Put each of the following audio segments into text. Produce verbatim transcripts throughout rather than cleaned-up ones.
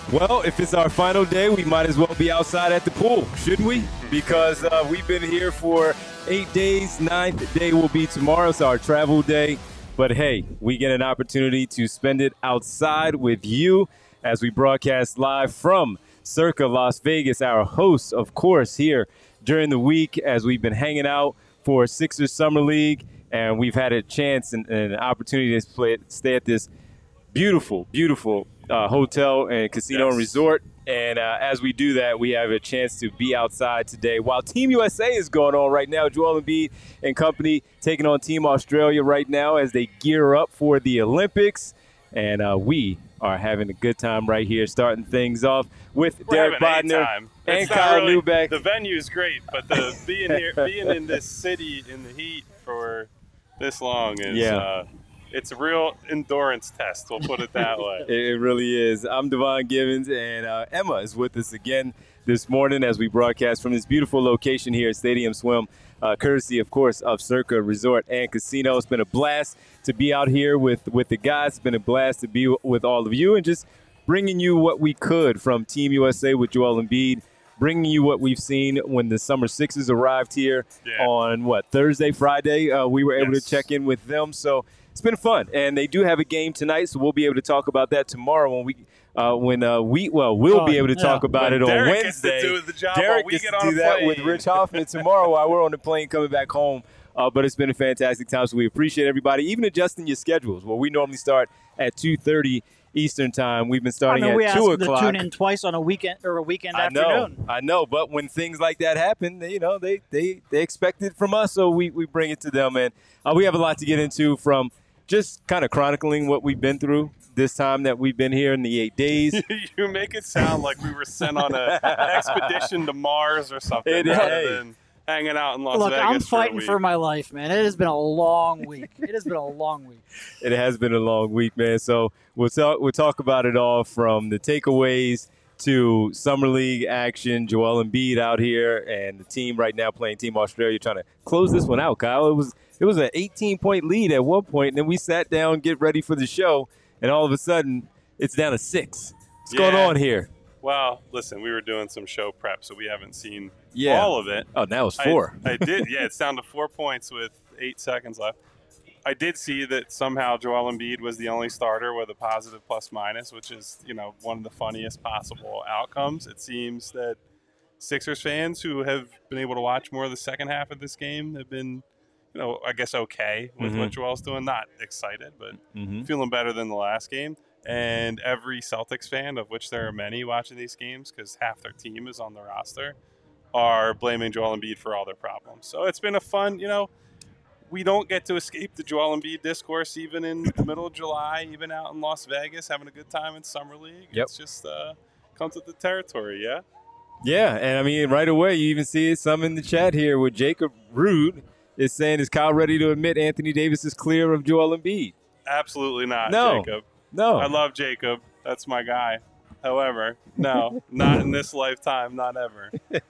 Well, if it's our final day, we might as well be outside at the pool, shouldn't we? Because uh, we've been here for eight days. Ninth day will be tomorrow. It's our travel day. But hey, we get an opportunity to spend it outside with you as we broadcast live from Circa Las Vegas, our host, of course, here during the week as we've been hanging out for Sixers Summer League. And we've had a chance and, and an opportunity to play, stay at this beautiful, beautiful uh, hotel and casino yes. and resort. And uh, as we do that, we have a chance to be outside today while Team U S A is going on right now. Joel Embiid and company taking on Team Australia right now as they gear up for the Olympics. And uh, we are having a good time right here, starting things off with We're Derek Bodner and Kyle really, Neubeck. The venue's great, but the being here, being in this city in the heat for this long is yeah. uh, it's a real endurance test. We'll put it that way. It really is. I'm Devon Givens, and uh, Emma is with us again this morning as we broadcast from this beautiful location here at Stadium Swim, uh, courtesy, of course, of Circa Resort and Casino. It's been a blast to be out here with, with the guys. It's been a blast to be with all of you and just bringing you what we could from Team U S A with Joel Embiid, bringing you what we've seen when the Summer Sixes arrived here yeah. on, what, Thursday, Friday. Uh, we were able yes. to check in with them. So it's been fun, and they do have a game tonight, so we'll be able to talk about that tomorrow when we uh, when uh, we well we'll oh, be able to yeah. talk about when it Derek on Wednesday. Gets to do the job Derek while we gets get to on do a that plane. with Rich Hoffman tomorrow while we're on the plane coming back home. Uh, but it's been a fantastic time, so we appreciate everybody, even adjusting your schedules. Well, we normally start at two thirty Eastern time. We've been starting I mean, at we two asked o'clock. them to tune in twice on a weekend or a weekend I afternoon. know, I know, but when things like that happen, they, you know, they they they expect it from us, so we, we bring it to them. And uh, we have a lot to get into from just kind of chronicling what we've been through this time that we've been here in the eight days. You make it sound like we were sent on an expedition to Mars or something It, rather hey. than hanging out in Las Look, Vegas I'm for a fighting week. for my life, man. It has been a long week. It has been a long week. It has been a long week, man. So we'll talk, we'll talk about it all from the takeaways to Summer League action, Joel Embiid out here, and the team right now playing Team Australia, trying to close this one out, Kyle. It was it was an eighteen-point lead at one point, and then we sat down, get ready for the show, and all of a sudden it's down to six. What's Yeah. going on here? Well, listen, we were doing some show prep, so we haven't seen Yeah. all of it. Oh, now it's four. I, I did, yeah. It's down to four points with eight seconds left. I did see that somehow Joel Embiid was the only starter with a positive plus minus, which is, you know, one of the funniest possible outcomes. It seems that Sixers fans who have been able to watch more of the second half of this game have been, you know, I guess okay with Mhm. what Joel's doing. Not excited, but Mm-hmm. feeling better than the last game. And every Celtics fan, of which there are many watching these games because half their team is on the roster, are blaming Joel Embiid for all their problems. So it's been a fun, you know, we don't get to escape the Joel Embiid discourse even in the middle of July, even out in Las Vegas, having a good time in Summer League. Yep. It's just uh, comes with the territory, yeah? Yeah, and I mean, right away, you even see it some in the chat here with Jacob Rude is saying, is Kyle ready to admit Anthony Davis is clear of Joel Embiid? Absolutely not, No. Jacob. No. I love Jacob. That's my guy. However, no, not in this lifetime, not ever.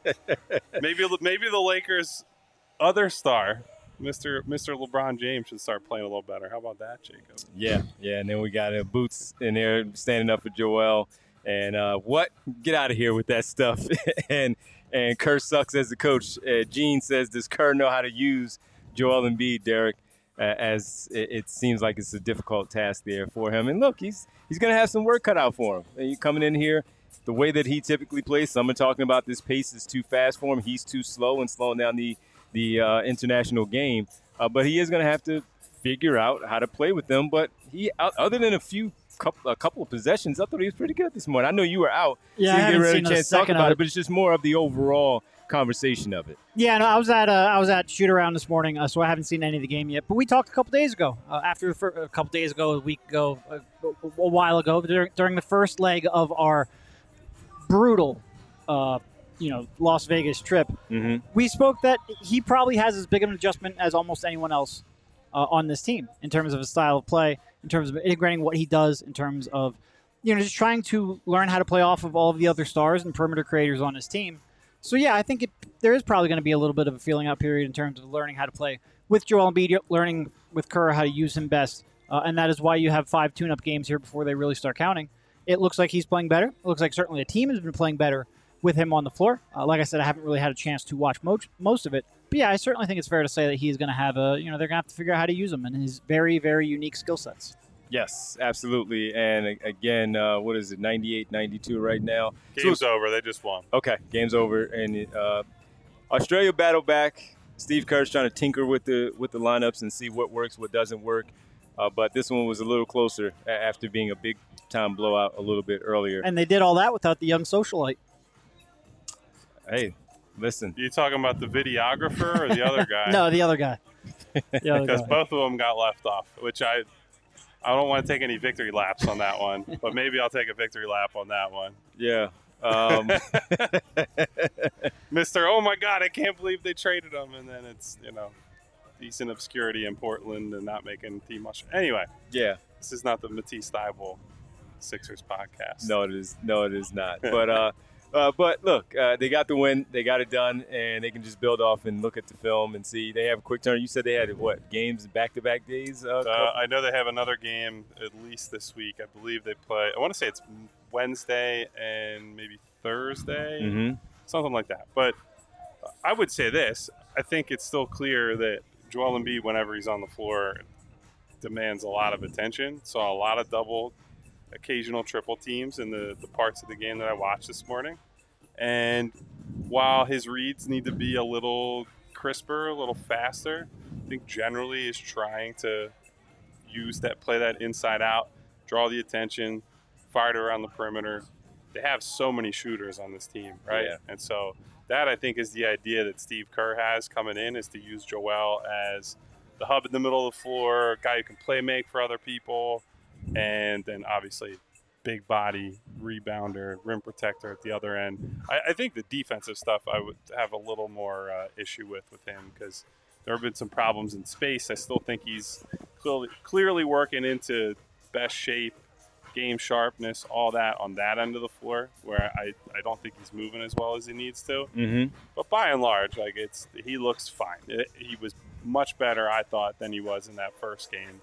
Maybe maybe the Lakers' other star, Mister Mister LeBron James, should start playing a little better. How about that, Jacob? Yeah, yeah, and then we got uh, Boots in there standing up for Joel. And uh, what? Get out of here with that stuff. and and Kerr sucks as the coach. Uh, Gene says, does Kerr know how to use Joel Embiid, Derek? Uh, as it, it seems like it's a difficult task there for him. And look, he's he's going to have some work cut out for him. And you coming in here, the way that he typically plays, some are talking about this pace is too fast for him. He's too slow and slowing down the, the uh, international game. Uh, but he is going to have to figure out how to play with them. But he, other than a few couple, a couple of possessions, I thought he was pretty good this morning. I know you were out, Yeah, so I you haven't didn't really seen a chance to talk second about of it. it. But it's just more of the overall conversation of it. Yeah, no, I was at uh, I was at shoot around this morning, uh, so I haven't seen any of the game yet. But we talked a couple days ago, uh, after the fir- a couple days ago, a week ago, a, a while ago, during, during the first leg of our brutal, uh, you know, Las Vegas trip. Mm-hmm. We spoke that he probably has as big of an adjustment as almost anyone else uh, on this team in terms of his style of play, in terms of integrating what he does, in terms of, you know, just trying to learn how to play off of all of the other stars and perimeter creators on his team. So, yeah, I think it, there is probably going to be a little bit of a feeling out period in terms of learning how to play with Joel Embiid, learning with Kerr how to use him best. Uh, and that is why you have five tune-up games here before they really start counting. it looks like he's playing better. It looks like certainly the team has been playing better with him on the floor. Uh, like I said, I haven't really had a chance to watch most most of it. But yeah, I certainly think it's fair to say that he's going to have a, you know, they're going to have to figure out how to use him and his very, very unique skill sets. Yes, absolutely. And again, uh, what is it, ninety-eight ninety-two right now? Game's so, over. They just won. Okay, game's over. And uh, Australia battled back. Steve Kerr's trying to tinker with the with the lineups and see what works, what doesn't work. Uh, but this one was a little closer after being a big-time blowout a little bit earlier. And they did all that without the young socialite. Hey, listen. You talking about the videographer or the other guy? No, the other guy. Because both of them got left off, which I I don't want to take any victory laps on that one, but maybe I'll take a victory lap on that one. Yeah. Um. Mister Oh, my God, I can't believe they traded him. And then it's, you know, decent obscurity in Portland and not making team much. Anyway. Yeah. This is not the Matisse Thybulle Sixers podcast. No, it is. No, it is not. But, uh, Uh, but look, uh, they got the win. They got it done, and they can just build off and look at the film and see. They have a quick turn. You said they had, what, games back-to-back days? Uh, uh, I know they have another game at least this week. I believe they play – I want to say it's Wednesday and maybe Thursday, mm-hmm. something like that. But I would say this. I think it's still clear that Joel Embiid, whenever he's on the floor, demands a lot of attention. Saw a lot of double, occasional triple teams in the, the parts of the game that I watched this morning. And while his reads need to be a little crisper, a little faster, I think generally is trying to use that, play that inside out, draw the attention, fire it around the perimeter. They have so many shooters on this team, right? Yeah. And so that, I think, is the idea that Steve Kerr has coming in, is to use Joel as the hub in the middle of the floor, a guy who can play make for other people, and then obviously big body, rebounder, rim protector at the other end. I, I think the defensive stuff I would have a little more uh, issue with with him because there have been some problems in space. I still think he's clearly, clearly working into best shape, game sharpness, all that on that end of the floor where I, I don't think he's moving as well as he needs to. Mm-hmm. But by and large, like it's he looks fine. It, he was much better, I thought, than he was in that first game.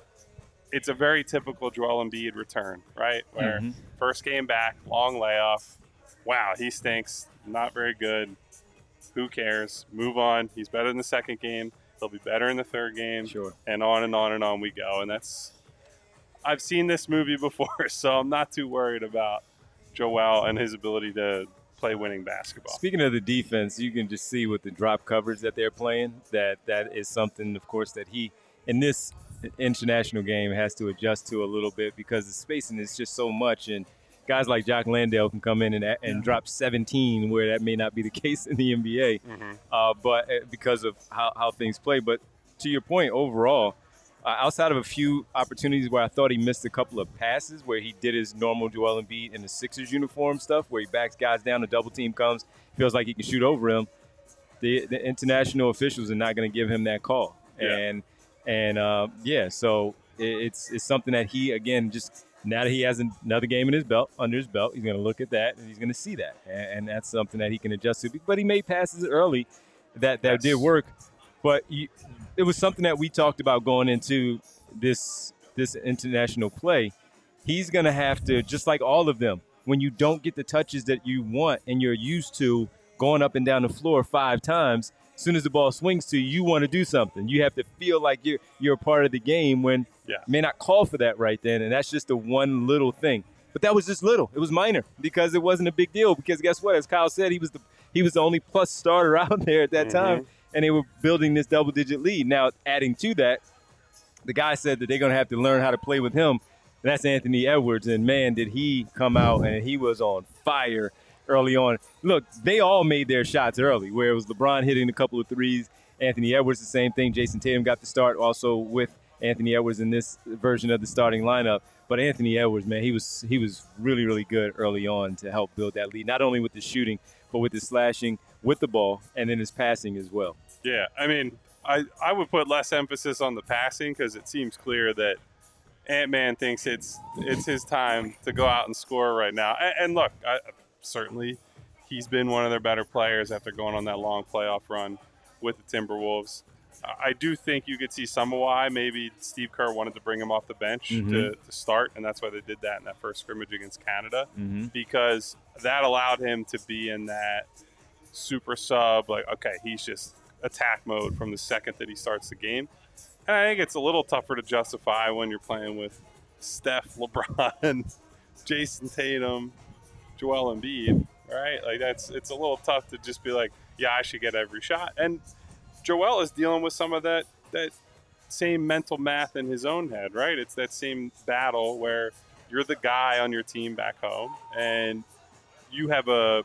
It's a very typical Joel Embiid return, right? Where mm-hmm. first game back, long layoff. Wow, he stinks. Not very good. Who cares? Move on. He's better in the second game. He'll be better in the third game. Sure. And on and on and on we go. And that's – I've seen this movie before, so I'm not too worried about Joel and his ability to play winning basketball. Speaking of the defense, you can just see with the drop coverage that they're playing that that is something, of course, that he – in this – international game has to adjust to a little bit because the spacing is just so much, and guys like Jock Landale can come in and, and yeah. drop seventeen where that may not be the case in the N B A, mm-hmm. uh, but because of how, how things play. But to your point, overall, uh, outside of a few opportunities where I thought he missed a couple of passes where he did his normal Joel Embiid in the Sixers uniform stuff where he backs guys down, the double team comes, feels like he can shoot over him, the, the international officials are not going to give him that call. Yeah. And And, uh, yeah, so it's it's something that he, again, just now that he has another game in his belt, under his belt, he's going to look at that and he's going to see that. And, and that's something that he can adjust to. But he made passes early that, that yes. did work. But you, it was something that we talked about going into this this international play. He's going to have to, just like all of them, when you don't get the touches that you want and you're used to going up and down the floor five times, as soon as the ball swings to you, you want to do something. You have to feel like you're you're a part of the game when yeah. you may not call for that right then, and that's just the one little thing. But that was just little. It was minor because it wasn't a big deal. Because guess what? As Kyle said, he was the he was the only plus starter out there at that mm-hmm. time, and they were building this double-digit lead. Now, adding to that, the guy said that they're going to have to learn how to play with him, and that's Anthony Edwards. And, man, did he come out, and he was on fire early on. Look, they all made their shots early, where it was LeBron hitting a couple of threes, Anthony Edwards the same thing. Jason Tatum got the start also with Anthony Edwards in this version of the starting lineup. But Anthony Edwards, man, he was he was really, really good early on to help build that lead, not only with the shooting, but with his slashing with the ball and then his passing as well. Yeah, I mean, I, I would put less emphasis on the passing because it seems clear that Ant-Man thinks it's it's his time to go out and score right now. And, and look, I, certainly he's been one of their better players after going on that long playoff run with the Timberwolves. I do think you could see some of why maybe Steve Kerr wanted to bring him off the bench Mhm. to, to start, and that's why they did that in that first scrimmage against Canada, Mm-hmm. because that allowed him to be in that super sub, like, okay, he's just attack mode from the second that he starts the game. And I think it's a little tougher to justify when you're playing with Steph, LeBron, Jason Tatum, Joel Embiid, right? Like, that's it's a little tough to just be like, yeah, I should get every shot. And Joel is dealing with some of that that same mental math in his own head, right? It's that same battle where you're the guy on your team back home, and you have a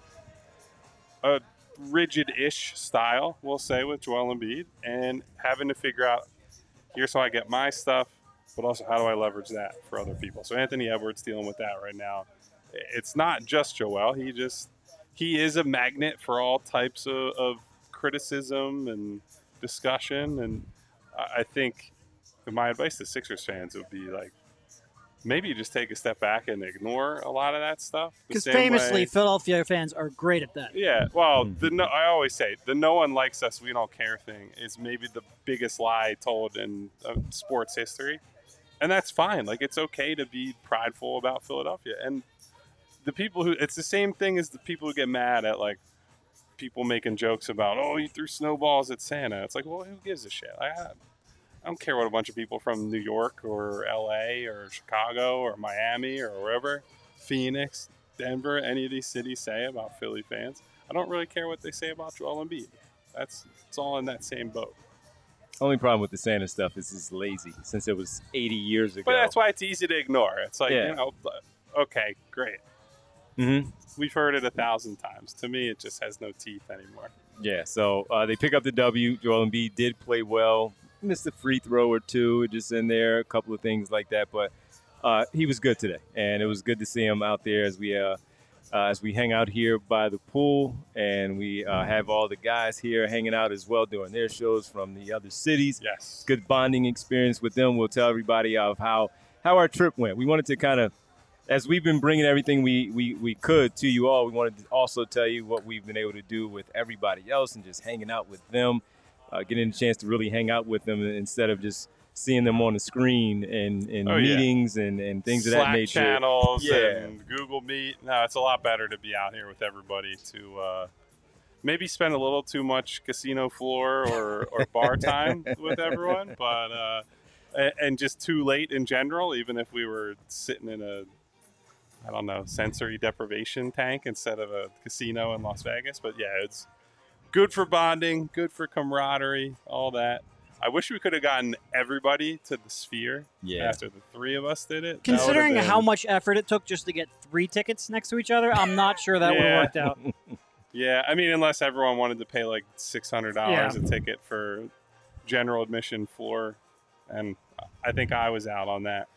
a rigid-ish style, we'll say, with Joel Embiid, and having to figure out, here's how I get my stuff, but also how do I leverage that for other people. So Anthony Edwards dealing with that right now. It's not just Joel. He just he is a magnet for all types of, of criticism and discussion, and I think my advice to Sixers fans would be like, maybe you just take a step back and ignore a lot of that stuff. the Because same famously, way- Philadelphia fans are great at that. yeah, well, the no, I always say the "no one likes us, we don't care" thing is maybe the biggest lie told in uh, sports history, and that's fine. Like, it's okay to be prideful about Philadelphia, and the people who it's the same thing as the people who get mad at like people making jokes about, oh, you threw snowballs at Santa. It's like, well, who gives a shit? I, I don't care what a bunch of people from New York or L A or Chicago or Miami or wherever, Phoenix, Denver, any of these cities say about Philly fans. I don't really care what they say about Joel Embiid. That's it's all in that same boat. Only problem with the Santa stuff is it's lazy since it was eighty years ago. But that's why it's easy to ignore. It's like, Yeah. you know, okay, great. Mm-hmm. We've heard it a thousand times. To me, it just has no teeth anymore. Yeah, so uh, they pick up the W. Joel Embiid did play well. Missed a free throw or two just in there, a couple of things like that. But uh, he was good today, and it was good to see him out there as we uh, uh, as we hang out here by the pool, and we uh, have all the guys here hanging out as well doing their shows from the other cities. Yes. Good bonding experience with them. We'll tell everybody of how, how our trip went. We wanted to kind of, as we've been bringing everything we, we, we could to you all, we wanted to also tell you what we've been able to do with everybody else and just hanging out with them, uh, getting a chance to really hang out with them instead of just seeing them on the screen and, and Oh, yeah. meetings and, and things Slack of that nature. channels Yeah. and Google Meet. No, it's a lot better to be out here with everybody to uh, maybe spend a little too much casino floor or, or bar time with everyone, but uh, and, and just too late in general, even if we were sitting in a, I don't know, sensory deprivation tank instead of a casino in Las Vegas. But yeah, it's good for bonding, good for camaraderie, all that. I wish we could have gotten everybody to the Sphere Yeah. after the three of us did it. That would've Considering been- how much effort it took just to get three tickets next to each other, I'm not sure that would Yeah. have worked out. Yeah, I mean, unless everyone wanted to pay like six hundred dollars Yeah. a ticket for general admission floor, and I think I was out on that.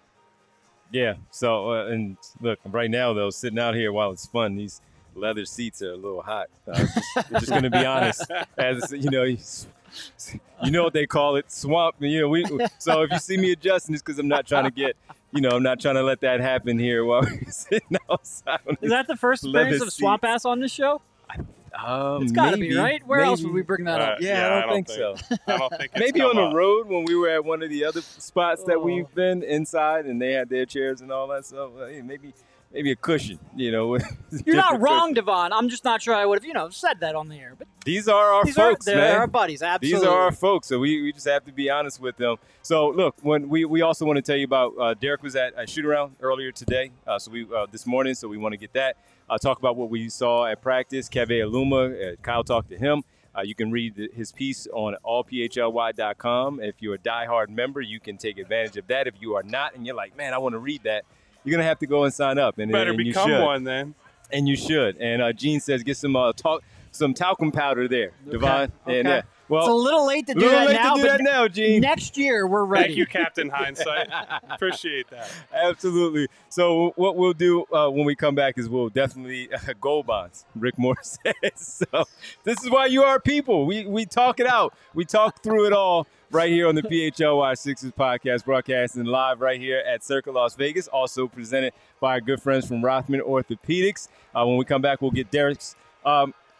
Yeah. So, uh, and look, right now, though, sitting out here while it's fun, these leather seats are a little hot. Uh, just, we're just going to be honest. As you know, you, you know what they call it, swamp. You know, we. So if you see me adjusting, it's because I'm not trying to get, you know, I'm not trying to let that happen here while we're sitting outside. on Is these that the first leather appearance of Swamp seats. Ass on this show? Um, It's got to maybe, be, right? Where else maybe. would we bring that Uh, up? Yeah, Yeah, I, don't I don't think, think- so. I don't think it's Maybe come on the up. road when we were at one of the other spots that Oh. we've been inside and they had their chairs and all that stuff. Well, hey, maybe, maybe a cushion. You know, You're not different wrong, cushion. Devon. I'm just not sure I would have, you know, said that on the air. But These are our these folks, are they're man. our buddies. Absolutely. These are our folks, so we, we just have to be honest with them. So, look, when we, we also want to tell you about uh, Derek was at a shoot around earlier today, uh, so we uh, this morning, so we want to get that. Uh, talk about what we saw at practice. Keve Aluma, uh, Kyle talked to him. Uh, you can read the, his piece on all p h l y dot com. If you're a diehard member, you can take advantage of that. If you are not, and you're like, man, I want to read that, you're gonna have to go and sign up. And Better and you become should. one then. And you should. And uh, Gene says get some uh, talk, some talcum powder there, Devon. And okay. uh, well, It's a little late to do little that late now, to do but that now, Gene. next year we're ready. Thank you, Captain Hindsight. Appreciate that. Absolutely. So what we'll do uh, when we come back is we'll definitely uh, gold bonds. Rick Moore says. So this is why you are people. We we talk it out. We talk through it all right here on the P H L Y Sixers podcast, broadcasting live right here at Circa Las Vegas. Also presented by our good friends from Rothman Orthopedics. Uh, when we come back, we'll get Derek's. Um,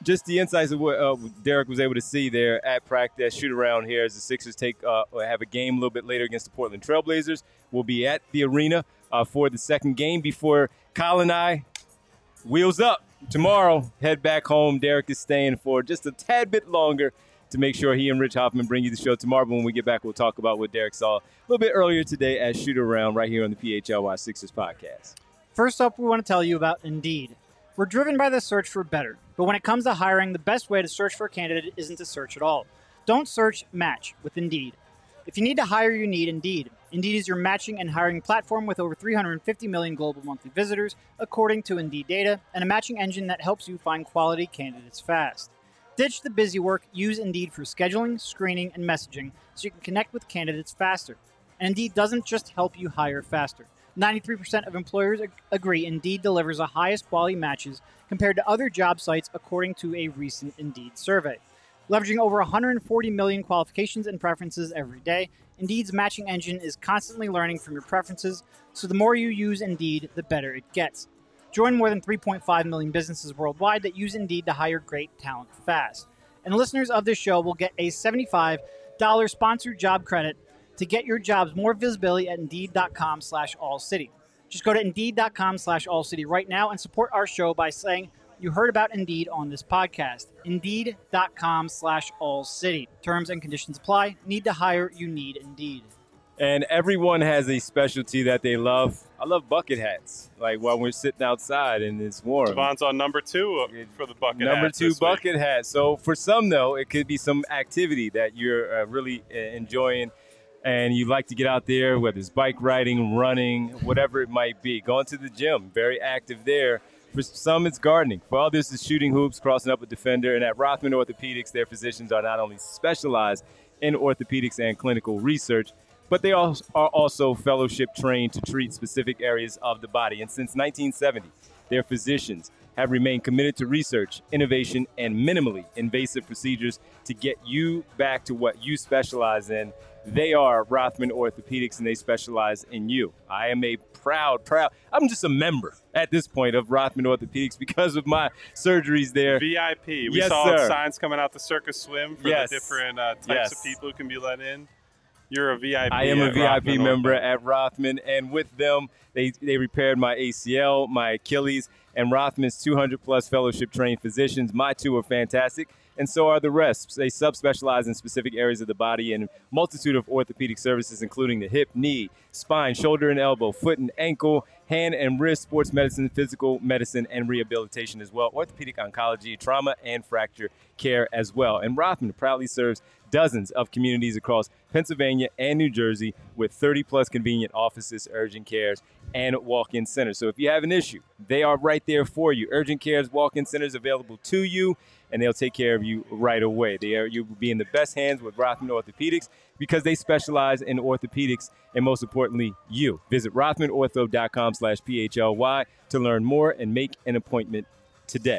just the insights of what uh, Derek was able to see there at practice, shoot around here as the Sixers take uh, have a game a little bit later against the Portland Trailblazers. We'll be at the arena uh, for the second game before Kyle and I wheels up tomorrow. Head back home. Derek is staying for just a tad bit longer to make sure he and Rich Hoffman bring you the show tomorrow. But when we get back, we'll talk about what Derek saw a little bit earlier today at Shoot Around right here on the P H L Y Sixers podcast. First up, we want to tell you about Indeed. We're driven by the search for better, but when it comes to hiring, the best way to search for a candidate isn't to search at all. Don't search, match with Indeed. If you need to hire, you need Indeed. Indeed is your matching and hiring platform with over three hundred fifty million global monthly visitors, according to Indeed data, and a matching engine that helps you find quality candidates fast. Ditch the busy work, use Indeed for scheduling, screening, and messaging so you can connect with candidates faster. And Indeed doesn't just help you hire faster. ninety-three percent of employers ag- agree Indeed delivers the highest quality matches compared to other job sites, according to a recent Indeed survey. Leveraging over one hundred forty million qualifications and preferences every day, Indeed's matching engine is constantly learning from your preferences, so the more you use Indeed, the better it gets. Join more than three point five million businesses worldwide that use Indeed to hire great talent fast. And listeners of this show will get a seventy-five dollars sponsored job credit to get your jobs more visibility at Indeed.com slash All City. Just go to Indeed.com slash All City right now and support our show by saying you heard about Indeed on this podcast. Indeed.com slash All City. Terms and conditions apply. Need to hire? You need Indeed. And everyone has a specialty that they love. I love bucket hats. Like while we're sitting outside and it's warm. Devon's on number two for the bucket Number hats two this bucket week. hat. So for some, though, it could be some activity that you're uh, really uh, enjoying and you like to get out there, whether it's bike riding, running, whatever it might be. Going to the gym, very active there. For some, it's gardening. For others, it's shooting hoops, crossing up a defender. And at Rothman Orthopedics, their physicians are not only specialized in orthopedics and clinical research, but they are also fellowship trained to treat specific areas of the body. And since nineteen seventy, their physicians have remained committed to research, innovation, and minimally invasive procedures to get you back to what you specialize in. They are Rothman Orthopedics, and they specialize in you. I am a proud, proud, I'm just a member at this point of Rothman Orthopedics because of my surgeries there. V I P. We Yes, saw sir. signs coming out the Circus Swim for Yes. the different uh, types Yes. of people who can be let in. You're a V I P. I am a at V I P Rothman member Ortho. at Rothman, and with them, they, they repaired my A C L, my Achilles, and Rothman's two hundred plus fellowship trained physicians. My two are fantastic, and so are the rest. They subspecialize in specific areas of the body and multitude of orthopedic services, including the hip, knee, spine, shoulder and elbow, foot and ankle, hand and wrist, sports medicine, physical medicine, and rehabilitation as well, orthopedic oncology, trauma, and fracture care as well. And Rothman proudly serves dozens of communities across Pennsylvania and New Jersey with thirty plus convenient offices, urgent cares, and walk-in centers. So if you have an issue, they are right there for you. Urgent cares, walk-in centers available to you, and they'll take care of you right away. They are, you'll be in the best hands with Rothman Orthopedics because they specialize in orthopedics and, most importantly, you. Visit rothmanortho.com slash PHLY to learn more and make an appointment today.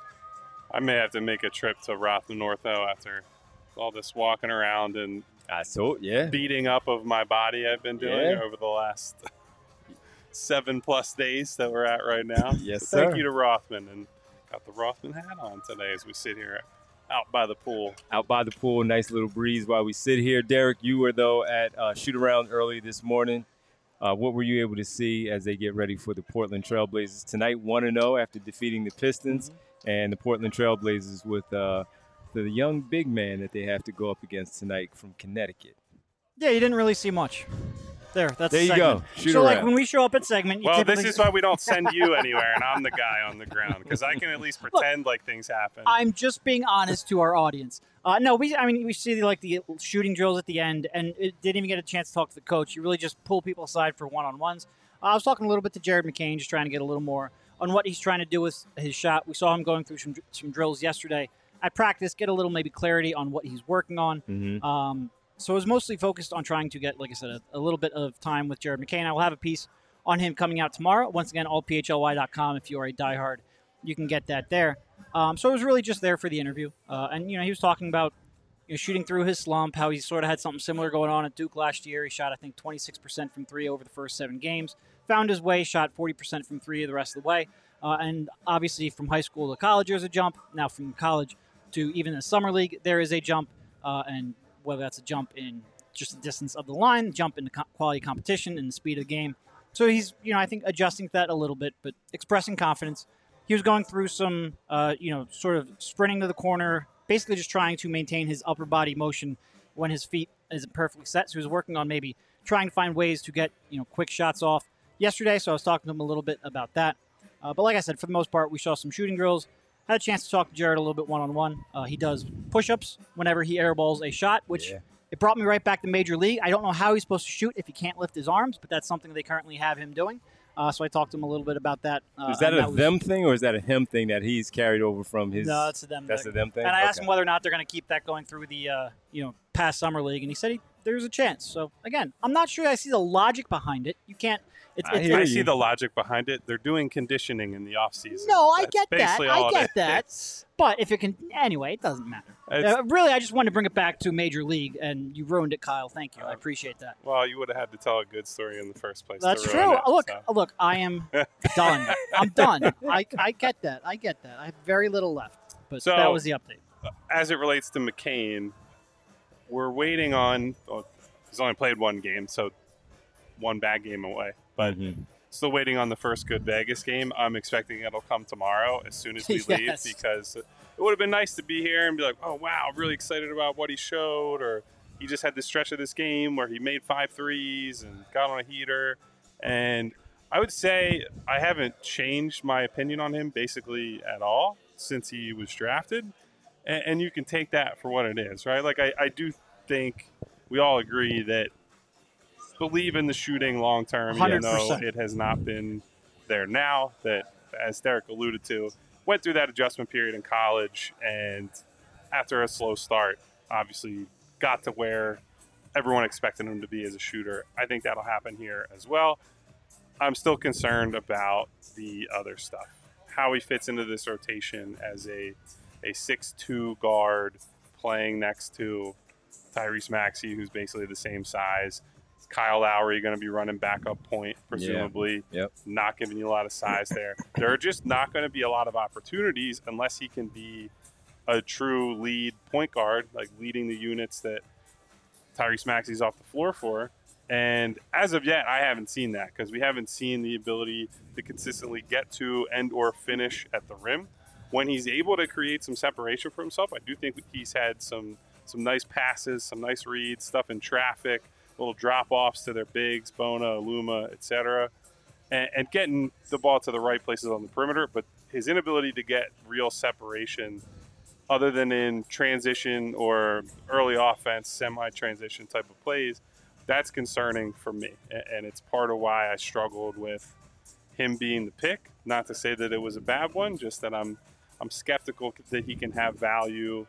I may have to make a trip to Rothman Ortho after all this walking around and I so yeah. beating up of my body I've been doing Yeah. over the last seven plus days that we're at right now. Yes, so thank sir. you to Rothman, and got the Rothman hat on today as we sit here out by the pool. Out by the pool, nice little breeze while we sit here. Derek, you were, though, at uh, shoot around early this morning. Uh, what were you able to see as they get ready for the Portland Trailblazers tonight? one and oh after defeating the Pistons, Mm-hmm. and the Portland Trailblazers with uh, the young big man that they have to go up against tonight from Connecticut. Yeah, you didn't really see much. There, that's There the you segment. go. Shoot so, like, around. when we show up at segment, you Well, typically this is why we don't send you anywhere, and I'm the guy on the ground because I can at least pretend like things happen. I'm just being honest to our audience. Uh, no, we. I mean, we see like the shooting drills at the end, and it didn't even get a chance to talk to the coach. You really just pull people aside for one-on-ones. Uh, I was talking a little bit to Jared McCain, just trying to get a little more on what he's trying to do with his shot. We saw him going through some some drills yesterday at practice, get a little maybe clarity on what he's working on. Mm-hmm. Um, so it was mostly focused on trying to get, like I said, a, a little bit of time with Jared McCain. I will have a piece on him coming out tomorrow. Once again, all P H L Y dot com. If you are a diehard, you can get that there. Um, so it was really just there for the interview. Uh, and, you know, he was talking about you know, shooting through his slump, how he sort of had something similar going on at Duke last year. He shot, I think, twenty-six percent from three over the first seven games. Found his way, shot forty percent from three the rest of the way. Uh, and obviously from high school to college, there's a jump. Now from college to even the summer league, there is a jump. Uh, and whether that's a jump in just the distance of the line, jump in the co- quality competition and the speed of the game. So he's, you know, I think adjusting to that a little bit, but expressing confidence. He was going through some, uh, you know, sort of sprinting to the corner, basically just trying to maintain his upper body motion when his feet isn't perfectly set. So he was working on maybe trying to find ways to get, you know, quick shots off yesterday. So I was talking to him a little bit about that. Uh, but like I said, for the most part, we saw some shooting drills. Had a chance to talk to Jared a little bit one-on-one. Uh, he does push-ups whenever he airballs a shot, which Yeah. it brought me right back to Major League. I don't know how he's supposed to shoot if he can't lift his arms, but that's something they currently have him doing. Uh, so I talked to him a little bit about that. Uh, Is that and a was- them thing or is that a him thing that he's carried over from his? No, that's a them That's thing. a them thing. And I asked Okay. him whether or not they're going to keep that going through the uh, you know past summer league, and he said he, there's a chance. So again, I'm not sure I see the logic behind it. You can't. It's, I it's hear I you. see the logic behind it. They're doing conditioning in the off season. No, I That's get that. basically I all it get that. is. But if it can, anyway, it doesn't matter. It's- Uh, really, I just wanted to bring it back to Major League, and you ruined it, Kyle. Thank you. I appreciate that. Well, you would have had to tell a good story in the first place. to That's ruin true. it, look, so. look, I am done. I'm done. I, I get that. I get that. I have very little left. But So- that was the update. As it relates to McCain, we're waiting on. Well, he's only played one game, so one bad game away. But Mhm. still waiting on the first good Vegas game. I'm expecting it'll come tomorrow as soon as we leave Yes. because it would have been nice to be here and be like, oh, wow, I'm really excited about what he showed. Or he just had this stretch of this game where he made five threes and got on a heater. And I would say I haven't changed my opinion on him basically at all since he was drafted. And, and you can take that for what it is, right? Like, I, I do think we all agree that believe in the shooting long term, one even hundred though percent. it has not been there now. That, as Derek alluded to, went through that adjustment period in college, and after a slow start, obviously got to where everyone expected him to be as a shooter. I think that'll happen here as well. I'm still concerned about the other stuff, how he fits into this rotation as a a six two guard playing next to Tyrese Maxey, who's basically the same size. Kyle Lowry going to be running backup point, presumably. Yep. Not giving you a lot of size there. There are just not going to be a lot of opportunities unless he can be a true lead point guard, like leading the units that Tyrese Maxey's off the floor for. And as of yet, I haven't seen that because we haven't seen the ability to consistently get to and or finish at the rim. When he's able to create some separation for himself, I do think he's had some some nice passes, some nice reads, stuff in traffic, little drop-offs to their bigs, Bona, Aluma, et cetera, and, and getting the ball to the right places on the perimeter. But his inability to get real separation other than in transition or early offense, semi-transition type of plays, that's concerning for me. And it's part of why I struggled with him being the pick. Not to say that it was a bad one, just that I'm I'm skeptical that he can have value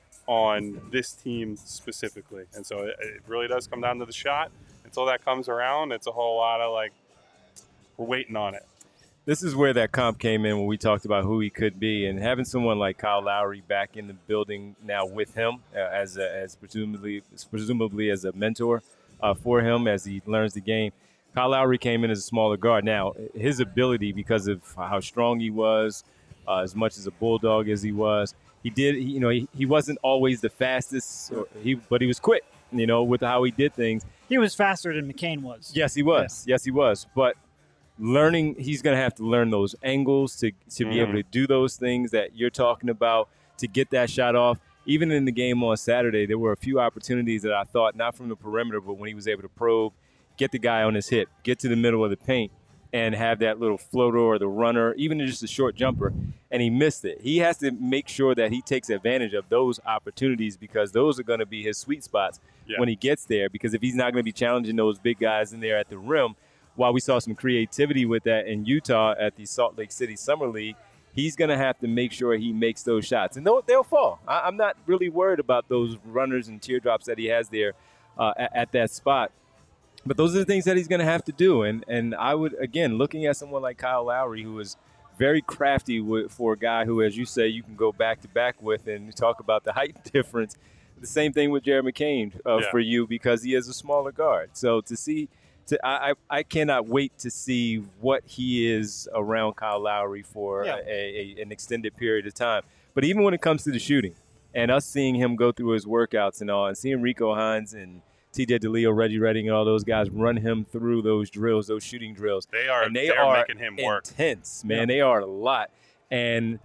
on this team specifically. And so it, it really does come down to the shot. Until that comes around, it's a whole lot of like, we're waiting on it. This is where that comp came in when we talked about who he could be, and having someone like Kyle Lowry back in the building now with him uh, as a, as presumably presumably as a mentor uh, for him as he learns the game. Kyle Lowry came in as a smaller guard. Now his ability, because of how strong he was, uh, as much as a bulldog as he was, he did. He, you know, he, he wasn't always the fastest, or he but he was quick. You know, with how he did things. He was faster than McCain was. Yes, he was. Yes, he was. But learning, he's going to have to learn those angles to to be Mhm. able to do those things that you're talking about, to get that shot off. Even in the game on Saturday, there were a few opportunities that I thought, not from the perimeter, but when he was able to probe, get the guy on his hip, get to the middle of the paint, and have that little floater or the runner, even just a short jumper, and he missed it. He has to make sure that he takes advantage of those opportunities because those are going to be his sweet spots Yeah. when he gets there, because if he's not going to be challenging those big guys in there at the rim, while we saw some creativity with that in Utah at the Salt Lake City Summer League, he's going to have to make sure he makes those shots. And they'll, they'll fall. I, I'm not really worried about those runners and teardrops that he has there uh, at, at that spot. But those are the things that he's going to have to do. And and I would, again, looking at someone like Kyle Lowry, who is very crafty with, for a guy who, as you say, you can go back-to-back with and talk about the height difference. The same thing with Jared McCain uh, Yeah. for you because he is a smaller guard. So to see to I, I I cannot wait to see what he is around Kyle Lowry for Yeah. a, a, an extended period of time. But even when it comes to the shooting, and us seeing him go through his workouts and all, and seeing Rico Hines and T J DeLeo, Reggie Redding, and all those guys run him through those drills, those shooting drills. They are and they they're are making him work. intense, man. Yeah. They are a lot. And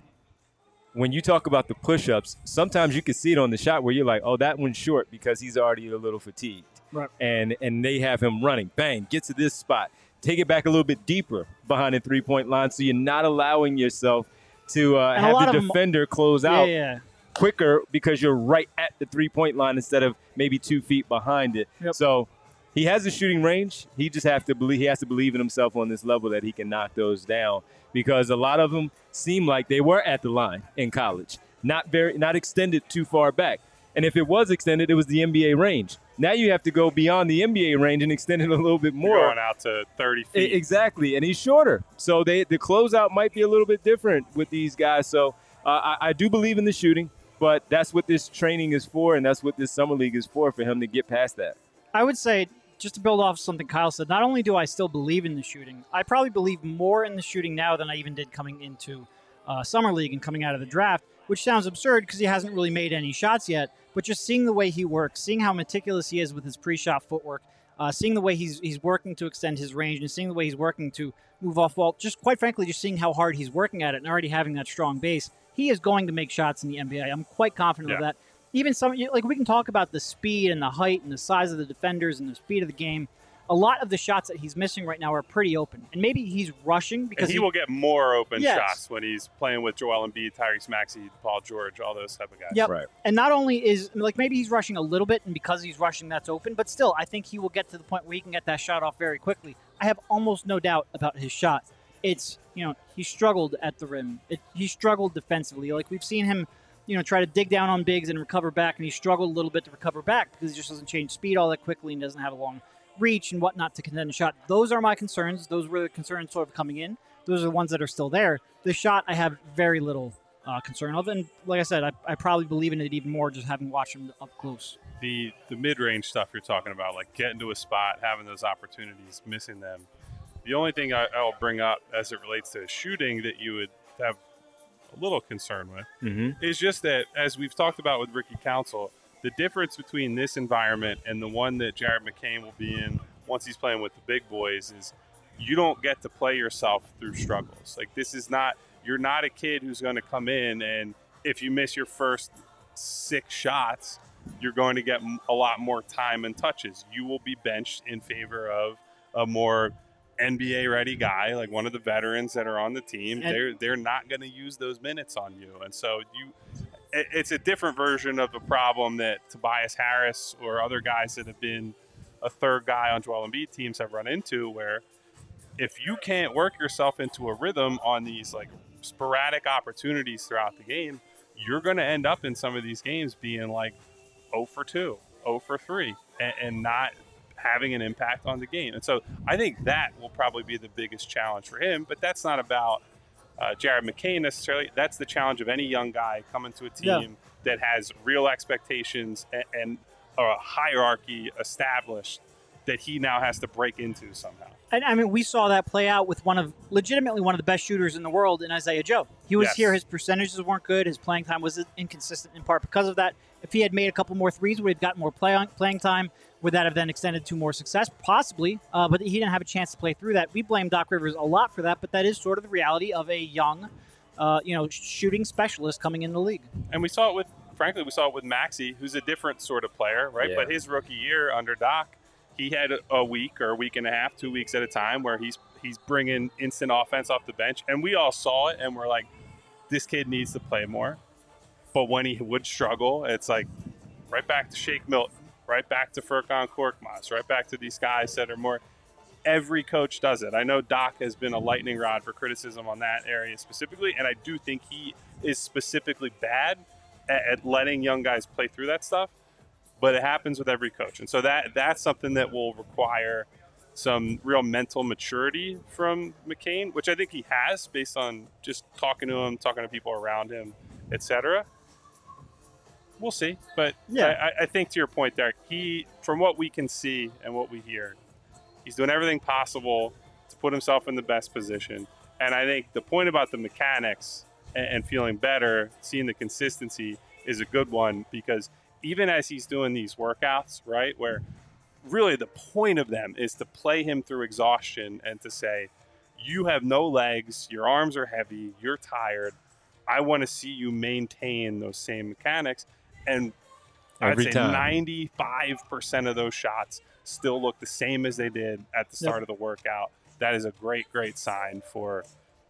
when you talk about the push-ups, sometimes you can see it on the shot where you're like, oh, that one's short because he's already a little fatigued. Right. And and they have him running. Bang, get to this spot. Take it back a little bit deeper behind the three-point line so you're not allowing yourself to uh, And a lot have the of them- defender close Yeah, out yeah. quicker because you're right at the three-point line instead of maybe two feet behind it. Yep. So he has a shooting range. He just have to believe he has to believe in himself on this level that he can knock those down because a lot of them seem like they were at the line in college, not very not extended too far back. And if it was extended, it was the N B A range. Now you have to go beyond the N B A range and extend it a little bit more. You're going out to thirty E- feet. Exactly, and he's shorter, so they the closeout might be a little bit different with these guys. So uh, I, I do believe in the shooting, but that's what this training is for, and that's what this summer league is for for him to get past that. I would say, just to build off something Kyle said, not only do I still believe in the shooting, I probably believe more in the shooting now than I even did coming into uh, summer league and coming out of the draft, which sounds absurd because he hasn't really made any shots yet. But just seeing the way he works, seeing how meticulous he is with his pre-shot footwork, uh, seeing the way he's he's working to extend his range, and seeing the way he's working to move off ball, just quite frankly, just seeing how hard he's working at it and already having that strong base, he is going to make shots in the N B A. I'm quite confident of Yeah. that. Even some, like we can talk about the speed and the height and the size of the defenders and the speed of the game. A lot of the shots that he's missing right now are pretty open, and maybe he's rushing because and he, will get more open Yes. shots when he's playing with Joel Embiid, Tyrese Maxey, Paul George, all those type of guys. Yep. Right. And not only is like maybe he's rushing a little bit, and because he's rushing, that's open. But still, I think he will get to the point where he can get that shot off very quickly. I have almost no doubt about his shot. It's you know he struggled at the rim. It, he struggled defensively. Like we've seen him, you know, try to dig down on bigs and recover back, and he struggled a little bit to recover back because he just doesn't change speed all that quickly and doesn't have a long reach and whatnot to contend a shot. Those are my concerns. Those were the concerns sort of coming in. Those are the ones that are still there. The shot I have very little uh, concern of, and like I said, I, I probably believe in it even more just having watched him up close. The the mid range stuff you're talking about, like getting to a spot, having those opportunities, missing them. The only thing I, I'll bring up as it relates to shooting that you would have a little concern with Mm-hmm. is just that, as we've talked about with Ricky Council, the difference between this environment and the one that Jared McCain will be in once he's playing with the big boys is you don't get to play yourself through struggles. Like this is not, you're not a kid who's going to come in and if you miss your first six shots, you're going to get a lot more time and touches. You will be benched in favor of a more N B A ready guy, like one of the veterans that are on the team. And- they're they're not going to use those minutes on you. And so you it- it's a different version of the problem that Tobias Harris or other guys that have been a third guy on Joel Embiid teams have run into, where if you can't work yourself into a rhythm on these like sporadic opportunities throughout the game, you're going to end up in some of these games being like zero for two, zero for three, and, and not having an impact on the game. And so I think that will probably be the biggest challenge for him, but that's not about uh, Jared McCain necessarily. That's the challenge of any young guy coming to a team Yeah. that has real expectations and, and a hierarchy established that he now has to break into somehow. And I mean, we saw that play out with one of legitimately one of the best shooters in the world in Isaiah Joe. He was Yes. here. His percentages weren't good. His playing time was inconsistent in part because of that. If he had made a couple more threes, would he have gotten more play on, playing time? Would that have then extended to more success? Possibly, uh, but he didn't have a chance to play through that. We blame Doc Rivers a lot for that, but that is sort of the reality of a young, uh, you know, shooting specialist coming in the league. And we saw it with, frankly, we saw it with Maxey, who's a different sort of player, right? Yeah. But his rookie year under Doc, he had a, a week or a week and a half, two weeks at a time where he's he's bringing instant offense off the bench. And we all saw it and we're like, this kid needs to play more. But when he would struggle, it's like right back to Shake Milton, right back to Furkan Korkmaz, right back to these guys that are more – every coach does it. I know Doc has been a lightning rod for criticism on that area specifically, and I do think he is specifically bad at, at letting young guys play through that stuff. But it happens with every coach. And so that that's something that will require some real mental maturity from McCain, which I think he has based on just talking to him, talking to people around him, et cetera. We'll see. But Yeah. I, I think to your point, Derek, he, from what we can see and what we hear, He's doing everything possible to put himself in the best position. And I think the point about the mechanics and, and feeling better, seeing the consistency is a good one, because even as he's doing these workouts, right, where really the point of them is to play him through exhaustion and to say, you have no legs, your arms are heavy, you're tired. I want to see you maintain those same mechanics. And Every I'd say time. ninety-five percent of those shots still look the same as they did at the start Yep. of the workout. That is a great, great sign for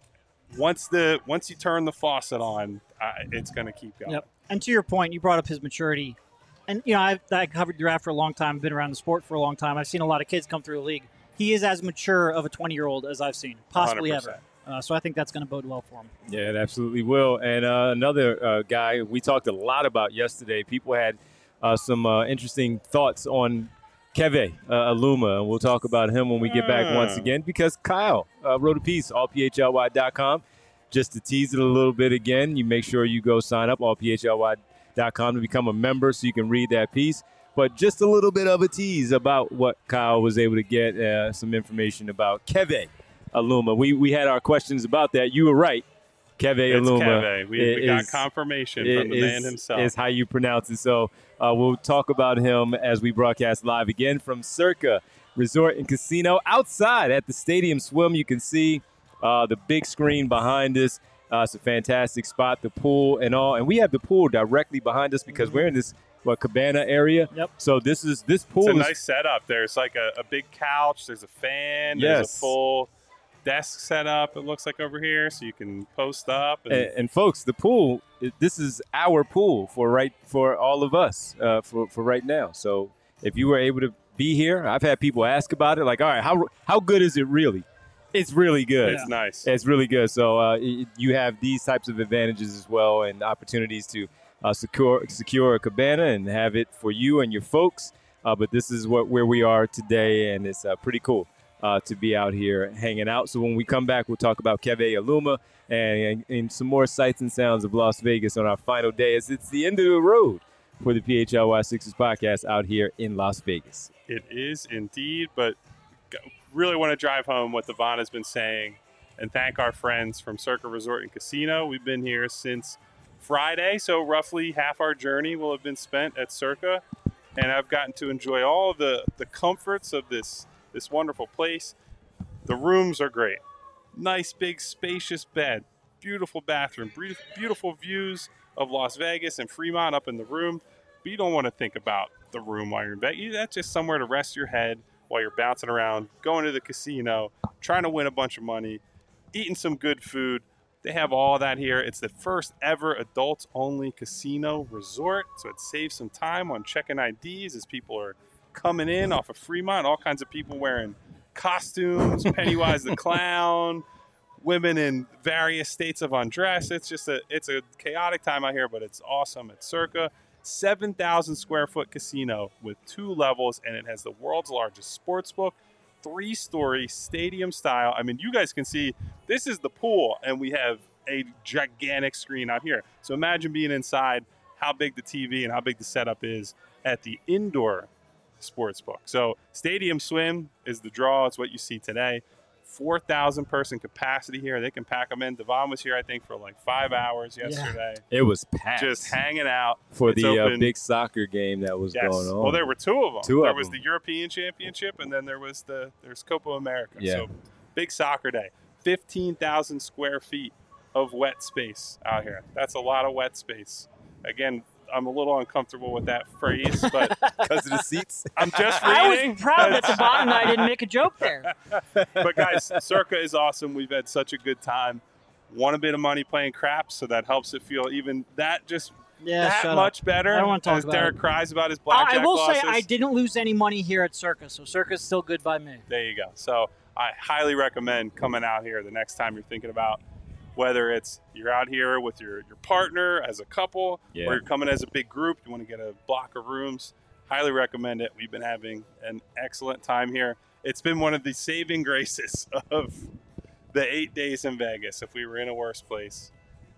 once the once you turn the faucet on, uh, it's going to keep going. Yep. And to your point, you brought up his maturity. And, you know, I've, I covered draft for a long time, been around the sport for a long time. I've seen a lot of kids come through the league. He is as mature of a twenty-year-old as I've seen, possibly one hundred ever. percent. Uh, so I think that's going to bode well for him. Yeah, it absolutely will. And uh, another uh, guy we talked a lot about yesterday, people had uh, some uh, interesting thoughts on Keve uh, Aluma, and we'll talk about him when we get back Ah. once again, because Kyle uh, wrote a piece, all p h l y dot com. Just to tease it a little bit again, you make sure you go sign up, all p h l y dot com, to become a member so you can read that piece. But just a little bit of a tease about what Kyle was able to get, uh, some information about Keve Aluma. We, we had our questions about that. You were right. Keve It's Aluma. Keve. We, we got is- confirmation from the is, man himself. is how you pronounce it. So uh, we'll talk about him as we broadcast live again from Circa Resort and Casino outside at the Stadium Swim. You can see uh, the big screen behind us. Uh, it's a fantastic spot, the pool and all. And we have the pool directly behind us because we're in this what, cabana area. Yep. So this is this pool It's a is nice setup. There's like a, a big couch. There's a fan. Yes. There's a full desk set up, it looks like, over here, so you can post up. And, And, and folks, the pool, it- this is our pool for right for all of us uh, for for right now. So if you were able to be here, I've had people ask about it, like, all right, how how good is it really? It's really good. it's nice. It's really good. So uh, y- you have these types of advantages as well, and opportunities to uh, secure secure a cabana and have it for you and your folks. Uh, but this is what where we are today, and it's uh, pretty cool uh, to be out here hanging out. So when we come back, we'll talk about Keve Aluma and, and, and some more sights and sounds of Las Vegas on our final day, as it's the end of the road for the P H L Y Sixers podcast out here in Las Vegas. It is indeed, but g- really want to drive home what Devon has been saying and thank our friends from Circa Resort and Casino. We've been here since Friday, so roughly half our journey will have been spent at Circa, and I've gotten to enjoy all the, the comforts of this, this wonderful place. The rooms are great. Nice, big, spacious bed, beautiful bathroom, bre- beautiful views of Las Vegas and Fremont up in the room. But you don't want to think about the room while you're in bed. You- That's just somewhere to rest your head while you're bouncing around, going to the casino, trying to win a bunch of money, eating some good food. They have all that here. It's the first ever adults-only casino resort, so it saves some time on checking I Ds as people are coming in off of Fremont. All kinds of people wearing costumes, Pennywise the Clown, women in various states of undress. It's just a it's a chaotic time out here, but it's awesome at Circa. seven thousand square foot casino with two levels, and it has the world's largest sports book, three-story stadium style. I mean, you guys can see this is the pool, and we have a gigantic screen out here. So imagine being inside, how big the T V and how big the setup is at the indoor sports book. So Stadium Swim is the draw. It's what you see today. four thousand person capacity here. They can pack them in. Devon was here, I think, for like five hours yesterday. It was packed Just hanging out. for It's the uh, open- big soccer game that was Yes. going on. Well, there were two of them. Two there of was them. the European Championship, and then there was the there's Copa America. Yeah. So big soccer day. fifteen thousand square feet of wet space out here. That's a lot of wet space. Again, I'm a little uncomfortable with that phrase, but because of the seats. I'm just I reading. was proud that Devon and I didn't make a joke there. But guys, Circa is awesome. We've had such a good time. Won a bit of money playing craps, so that helps it feel even that just Yeah, that shut much up. better. I don't wanna talk as about Derek it. cries about his I blackjack I will losses. say I didn't lose any money here at Circa, so Circa's still good by me. There you go. So I highly recommend coming out here the next time you're thinking about whether it's you're out here with your, your partner as a couple Yeah. or you're coming as a big group, you want to get a block of rooms. Highly recommend it. We've been having an excellent time here. It's been one of the saving graces of the eight days in Vegas. If we were in a worse place,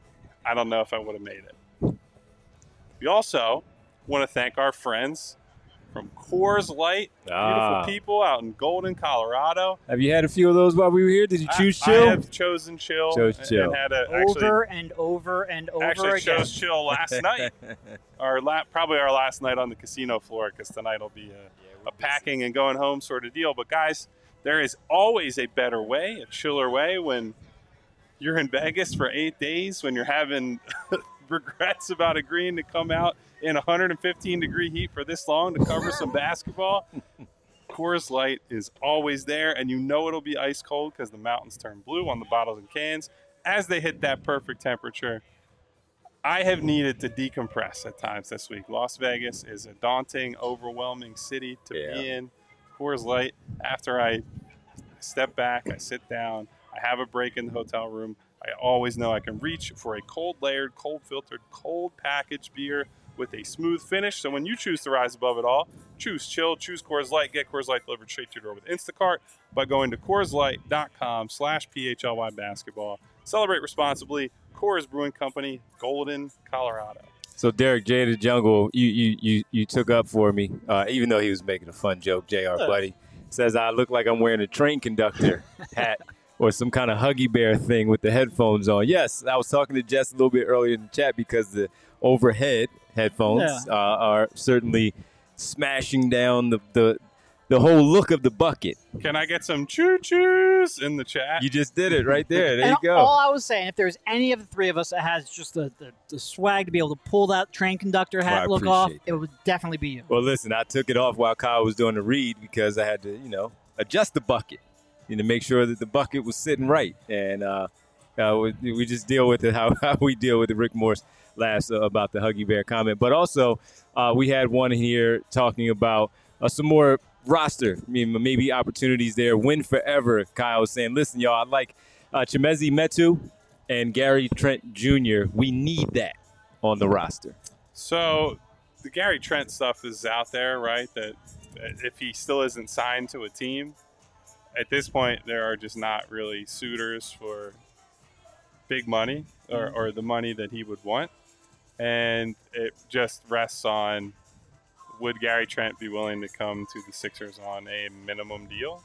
I don't know if I would have made it. We also want to thank our friends from Coors Light. Ah. Beautiful people out in Golden, Colorado. Have you had a few of those while we were here? Did you choose I, chill? I have chosen chill. Chose and- chill. And had a, actually, Over and over and over actually again. chose chill last night. Our la- probably our last night on the casino floor, because tonight will be a, a packing and going home sort of deal. But guys, there is always a better way, a chiller way, when you're in Vegas for eight days, when you're having regrets about agreeing to come out in one hundred fifteen degree heat for this long to cover some basketball. Coors Light is always there, and you know it'll be ice cold because the mountains turn blue on the bottles and cans as they hit that perfect temperature. I have needed to decompress at times this week. Las Vegas is a daunting, overwhelming city to Yeah. be in. Coors Light, after I step back, I sit down, I have a break in the hotel room, I always know I can reach for a cold layered, cold filtered, cold packaged beer with a smooth finish. So when you choose to rise above it all, choose chill, choose Coors Light, get Coors Light delivered straight to your door with Instacart by going to CoorsLight.com slash PHLY basketball. Celebrate responsibly. Coors Brewing Company, Golden, Colorado. So Derek J the Jungle, you you you you took up for me, uh, even though he was making a fun joke. J R buddy says I look like I'm wearing a train conductor hat or some kind of Huggy Bear thing with the headphones on. Yes, I was talking to Jess a little bit earlier in the chat because the overhead headphones Yeah. uh, are certainly smashing down the, the the whole look of the bucket. Can I get some choo-choos in the chat? You just did it right there. There And you go. all I was saying, if there's any of the three of us that has just the, the, the swag to be able to pull that train conductor hat Well, I look off, appreciate it would definitely be you. Well, listen, I took it off while Kyle was doing the read because I had to, you know, adjust the bucket, you know, make sure that the bucket was sitting right. And uh, uh, we, we just deal with it how, how we deal with it. Rick Morse laughs uh, about the Huggy Bear comment. But also, uh, we had one here talking about uh, some more roster, I mean, maybe opportunities there. Win forever, Kyle was saying. Listen, y'all, I like uh, Chimezi Metu and Gary Trent Junior We need that on the roster. So the Gary Trent stuff is out there, right? That that if he still isn't signed to a team, at this point, there are just not really suitors for big money or, or the money that he would want. And it just rests on, would Gary Trent be willing to come to the Sixers on a minimum deal?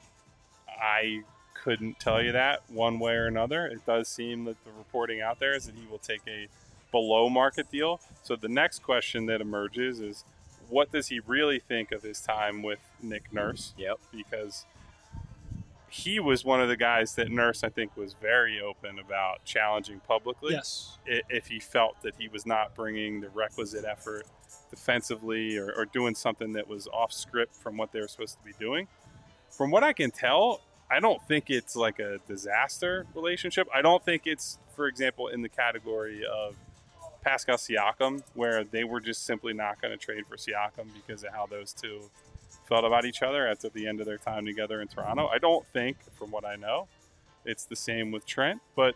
I couldn't tell you that one way or another. It does seem that the reporting out there is that he will take a below market deal. So the next question that emerges is, what does he really think of his time with Nick Nurse? Yep. Because he was one of the guys that Nurse, I think, was very open about challenging publicly. Yes. i- If he felt that he was not bringing the requisite effort defensively or, or doing something that was off script from what they were supposed to be doing. From what I can tell, I don't think it's like a disaster relationship. I don't think it's, for example, in the category of Pascal Siakam, where they were just simply not going to trade for Siakam because of how those two felt about each other at the end of their time together in Toronto. I don't think, from what I know, it's the same with Trent. But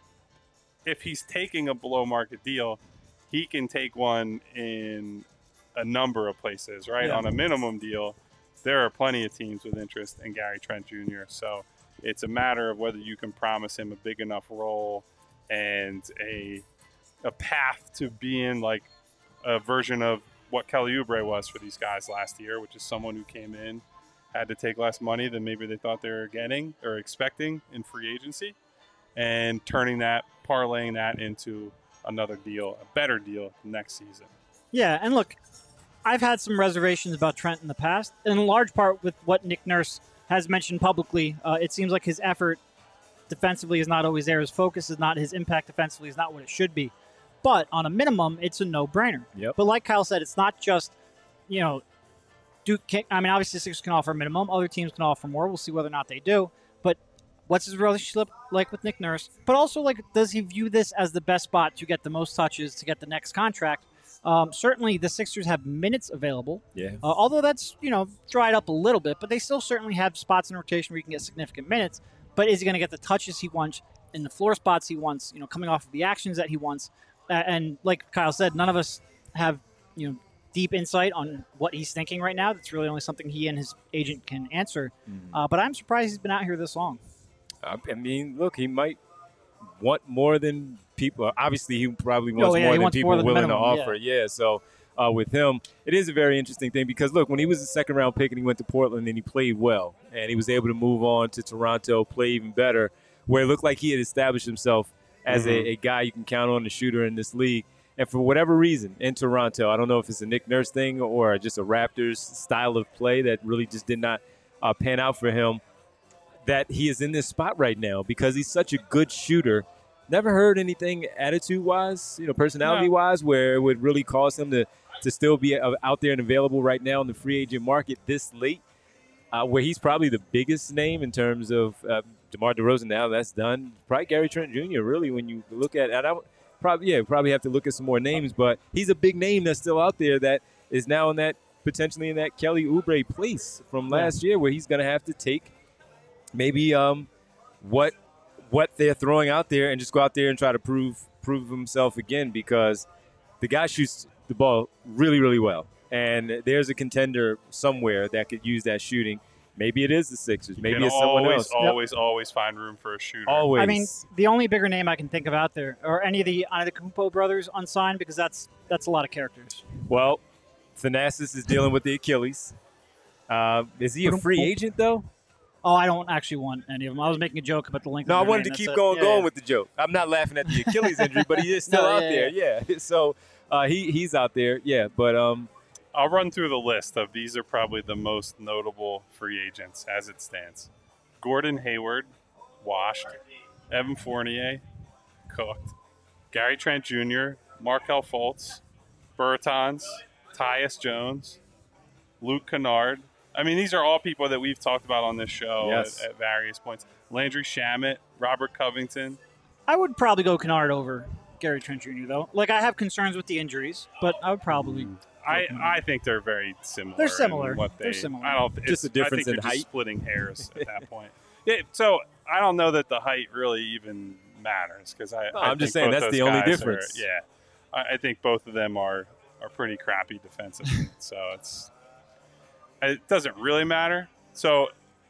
if he's taking a below market deal, he can take one in a number of places, right? Yeah. On a minimum deal, there are plenty of teams with interest in Gary Trent Junior So it's a matter of whether you can promise him a big enough role and a a path to being like a version of what Kelly Oubre was for these guys last year, which is someone who came in, had to take less money than maybe they thought they were getting or expecting in free agency, and turning that, parlaying that into another deal, a better deal next season. Yeah, and look, I've had some reservations about Trent in the past, in large part with what Nick Nurse has mentioned publicly. Uh, it seems like his effort defensively is not always there. His focus is not, his impact defensively is not what it should be. But on a minimum, it's a no-brainer. Yep. But like Kyle said, it's not just, you know, Duke can, I mean, obviously the Sixers can offer a minimum. Other teams can offer more. We'll see whether or not they do. But what's his relationship like with Nick Nurse? But also, like, does he view this as the best spot to get the most touches to get the next contract? Um, certainly, the Sixers have minutes available. Yeah. Uh, although that's, you know, dried up a little bit, but they still certainly have spots in rotation where you can get significant minutes. But is he going to get the touches he wants in the floor spots he wants, you know, coming off of the actions that he wants? Uh, and like Kyle said, none of us have, you know, deep insight on what he's thinking right now. That's really only something he and his agent can answer. Mm-hmm. Uh, but I'm surprised he's been out here this long. I mean, look, he might want more than people. Obviously, he probably wants Oh, yeah, more he than wants people more than willing minimum, to offer. Yeah. So uh, with him. It is a very interesting thing because, look, when he was a second-round pick and he went to Portland and he played well and he was able to move on to Toronto, play even better, where it looked like he had established himself as Mm-hmm. a, a guy you can count on, the shooter in this league. And for whatever reason, in Toronto, I don't know if it's a Nick Nurse thing or just a Raptors style of play that really just did not uh, pan out for him, that he is in this spot right now because he's such a good shooter. Never heard anything attitude-wise, you know, personality-wise, where it would really cause him to, to still be uh, out there and available right now in the free agent market this late, uh, where he's probably the biggest name in terms of uh, DeMar DeRozan. Now that's done. Probably Gary Trent Junior, really, when you look at – and I would probably, yeah, probably have to look at some more names, but he's a big name that's still out there that is now in that – potentially in that Kelly Oubre place from last yeah. year where he's going to have to take maybe um, what – what they're throwing out there and just go out there and try to prove prove himself again because the guy shoots the ball really, really well. And there's a contender somewhere that could use that shooting. Maybe it is the Sixers. Maybe you it's someone always, else. Always, yep. always find room for a shooter. Always. I mean, the only bigger name I can think of out there are any of the Antetokounmpo brothers unsigned because that's that's a lot of characters. Well, Thanasis is dealing with the Achilles. Uh, is he a free agent, though? Oh, I don't actually want any of them. I was making a joke about the length no, of I wanted name. to keep That's going a, yeah, going yeah. with the joke. I'm not laughing at the Achilles injury, but he is still no, out yeah, there. Yeah. yeah. So uh, he he's out there. Yeah. But um, I'll run through the list of these are probably the most notable free agents as it stands. Gordon Hayward, washed. Evan Fournier, cooked. Gary Trent Junior, Markelle Fultz, Bertans, Tyus Jones, Luke Kennard. I mean, these are all people that we've talked about on this show yes. at, at various points. Landry Shamet, Robert Covington. I would probably go Kennard over Gary Trent Junior, though. Like, I have concerns with the injuries, but I would probably Mm. I, I think they're very similar. They're similar. in What they, They're similar. I don't. Just a difference I think in you're height. Just splitting hairs at that point. Yeah, so I don't know that the height really even matters because I. No, I I'm just think saying both that's those the only guys difference. Are, yeah, I, I think both of them are are pretty crappy defensively. so it's it doesn't really matter. So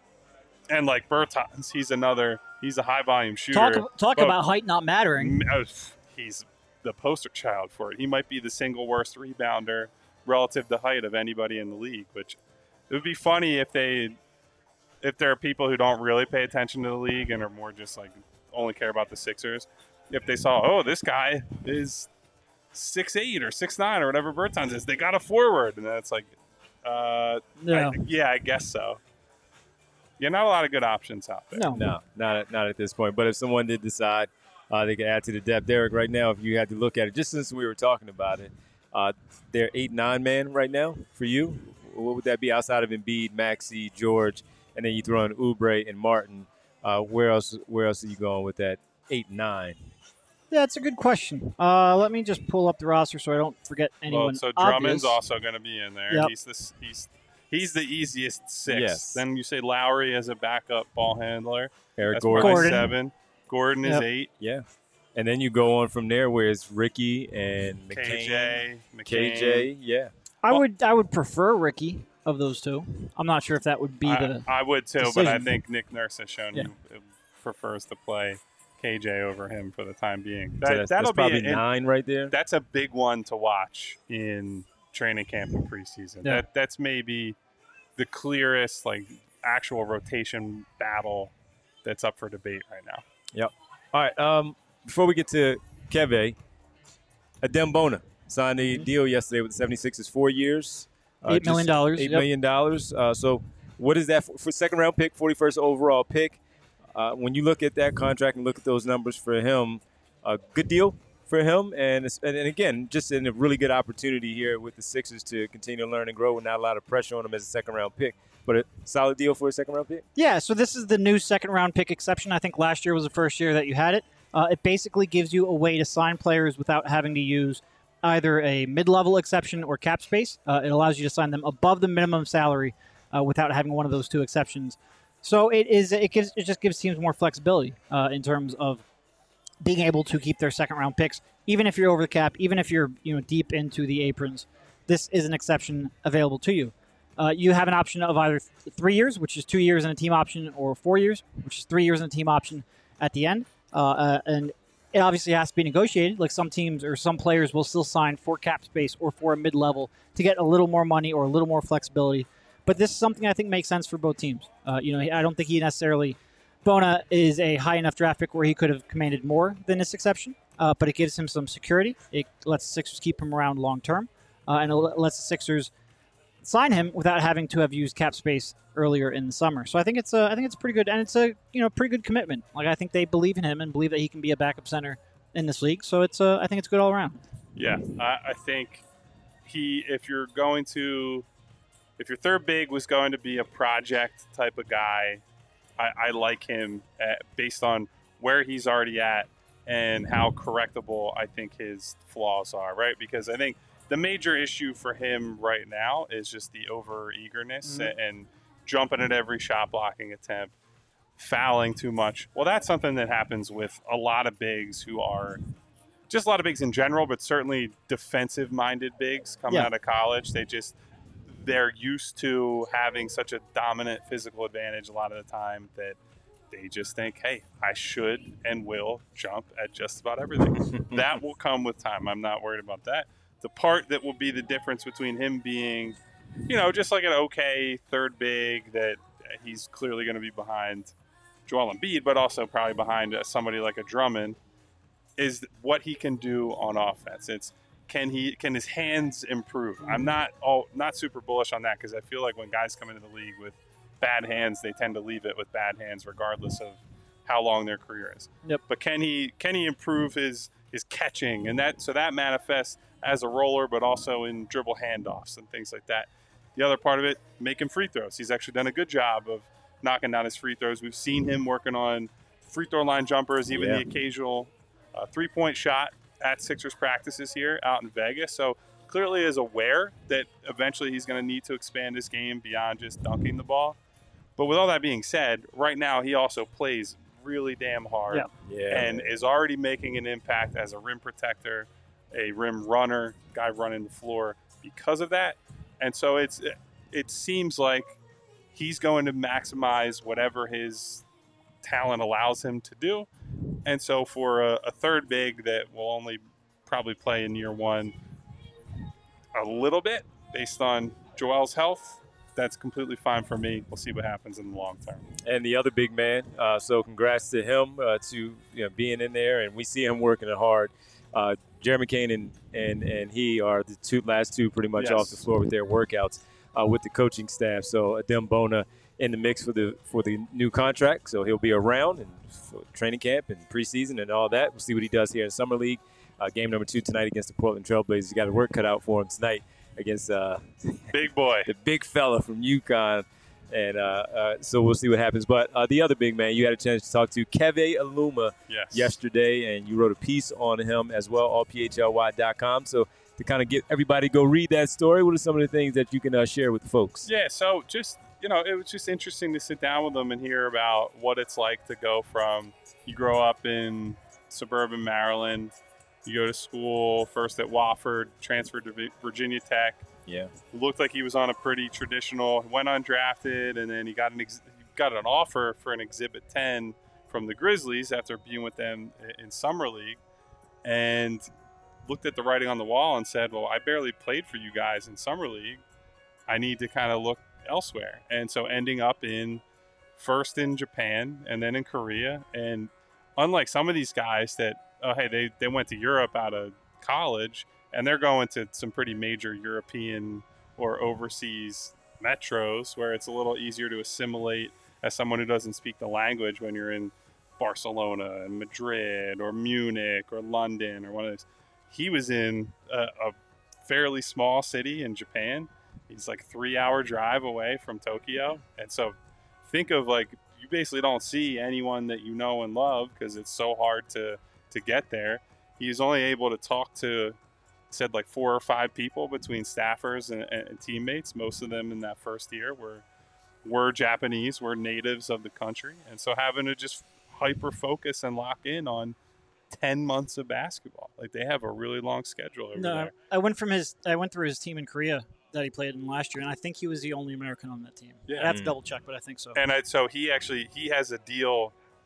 and like Bertans, he's another. He's a high volume shooter. Talk, talk but- about height not mattering. Oh, he's the poster child for it. He might be the single worst rebounder relative to height of anybody in the league, which it would be funny if they if there are people who don't really pay attention to the league and are more just like only care about the Sixers, if they saw, oh, this guy is six eight or six nine or whatever Bertans is, they got a forward, and then it's like uh No. I, yeah, I guess so. Yeah, not a lot of good options out there. No. No, not at, not at this point. But if someone did decide uh, they could add to the depth, Derek, right now, if you had to look at it, just since we were talking about it, uh, they're eight nine man right now for you. What would that be outside of Embiid, Maxey, George, and then you throw in Oubre and Martin? Uh, where else? Where else are you going with that eight nine? Yeah, that's a good question. Uh, let me just pull up the roster so I don't forget anyone. Well, so Drummond's obvious. also going to be in there. Yep. He's this. He's he's the easiest six. Yes. Then you say Lowry as a backup ball handler. Eric That's Gordon. probably Gordon. seven. Gordon is Yep. eight. Yeah. And then you go on from there where it's Ricky and McCain. K J, McCain. K J, yeah. I Well- would I would prefer Ricky of those two. I'm not sure if that would be I, the. I would too, but I decision. think Nick Nurse has shown Yeah. he prefers to play K J over him for the time being. So That, that's, that'll that's probably be an- nine right there. That's a big one to watch in training camp and preseason. Yeah. That that's maybe the clearest like actual rotation battle that's up for debate right now. All right. Um, before we get to Keve, Adem Bona signed a deal yesterday with the seventy-sixers, four years. uh, Eight million just dollars, Eight yep. million dollars. Uh, so what is that for, for second round pick, forty-first overall pick? Uh, when you look at that contract and look at those numbers for him, a good deal for him. And, it's, and, and again, just in a really good opportunity here with the Sixers to continue to learn and grow with not a lot of pressure on him as a second round pick. But a solid deal for a second round pick? Yeah, so this is the new second round pick exception. I think last year was the first year that you had it. Uh, it basically gives you a way to sign players without having to use either a mid-level exception or cap space. Uh, it allows you to sign them above the minimum salary uh, without having one of those two exceptions. So it is it gives it just gives teams more flexibility uh, in terms of being able to keep their second round picks, even if you're over the cap, even if you're you know deep into the aprons. This is an exception available to you. Uh, you have an option of either th- three years, which is two years and a team option, or four years, which is three years and a team option at the end. Uh, uh, and it obviously has to be negotiated. Like some teams or some players will still sign for cap space or for a mid-level to get a little more money or a little more flexibility. But this is something I think makes sense for both teams. Uh, you know, I don't think he necessarily Bona is a high enough draft pick where he could have commanded more than this exception, uh, but it gives him some security. It lets the Sixers keep him around long term, uh, and it lets the Sixers sign him without having to have used cap space earlier in the summer. So I think it's a, I think it's pretty good, and it's a you know pretty good commitment. Like I think they believe in him and believe that he can be a backup center in this league. So it's a, I think it's good all around. Yeah, I, I think he if you're going to if your third big was going to be a project type of guy. I, I like him at, based on where he's already at and how correctable I think his flaws are, right? Because I think the major issue for him right now is just the over-eagerness mm-hmm. and, and jumping at every shot blocking attempt, fouling too much. Well, that's something that happens with a lot of bigs who are just a lot of bigs in general, but certainly defensive-minded bigs coming yeah. out of college. They just – they're used to having such a dominant physical advantage a lot of the time that they just think, hey, I should and will jump at just about everything. That will come with time. I'm not worried about that. The part that will be the difference between him being, you know, just like an okay third big that he's clearly going to be behind Joel Embiid, but also probably behind somebody like a Drummond, is what he can do on offense. It's Can he? Can his hands improve? I'm not all not super bullish on that because I feel like when guys come into the league with bad hands, they tend to leave it with bad hands, regardless of how long their career is. Yep. But can he? Can he improve his his catching and that? So that manifests as a roller, but also in dribble handoffs and things like that. The other part of it, making free throws. He's actually done a good job of knocking down his free throws. We've seen him working on free throw line jumpers, even yeah. the occasional uh, three point shot at Sixers practices here out in Vegas. So clearly is aware that eventually he's going to need to expand his game beyond just dunking the ball. But with all that being said, right now he also plays really damn hard yeah. Yeah. and is already making an impact as a rim protector, a rim runner, guy running the floor because of that. And so it's it seems like he's going to maximize whatever his talent allows him to do. And so for a, a third big that will only probably play in year one a little bit based on Joel's health, that's completely fine for me. We'll see what happens in the long term. And the other big man, uh, so congrats to him uh, to you know, being in there, and we see him working it hard. Uh, Jeremy Kane and, and, and he are the two last two pretty much yes. off the floor with their workouts uh, with the coaching staff. So Adem Bona in the mix for the for the new contract, so he'll be around and for training camp and preseason and all that. We'll see what he does here in Summer League. Uh, game number two tonight against the Portland Trailblazers. You got a work cut out for him tonight against uh, big boy, the big fella from UConn. And uh, uh, so we'll see what happens. But uh, the other big man you had a chance to talk to, Keve Aluma, yes. yesterday, and you wrote a piece on him as well, all P H L Y dot com. So to kind of get everybody to go read that story, what are some of the things that you can uh, share with the folks? Yeah, so just, you know, it was just interesting to sit down with them and hear about what it's like to go from, you grow up in suburban Maryland, you go to school first at Wofford, transferred to Virginia Tech. Yeah, looked like he was on a pretty traditional, went undrafted, and then he got an ex- got an offer for an Exhibit ten from the Grizzlies after being with them in Summer League, and looked at the writing on the wall and said, well, I barely played for you guys in Summer League. I need to kind of look elsewhere. And so ending up in first in Japan and then in Korea. And unlike some of these guys that, oh, hey, they, they went to Europe out of college, and they're going to some pretty major European or overseas metros where it's a little easier to assimilate as someone who doesn't speak the language when you're in Barcelona and Madrid or Munich or London or one of those. He was in a, a fairly small city in Japan. He's like a three-hour drive away from Tokyo. And so think of, like, you basically don't see anyone that you know and love because it's so hard to, to get there. He was only able to talk to, said like four or five people between staffers and, and teammates. Most of them in that first year were were Japanese, were natives of the country. And so having to just hyper focus and lock in on ten months of basketball. Like, they have a really long schedule over no, there. I went from his I went through his team in Korea that he played in last year, and I think he was the only American on that team. Yeah. I have to Mm. double check, but I think so. And I, so he actually he has a deal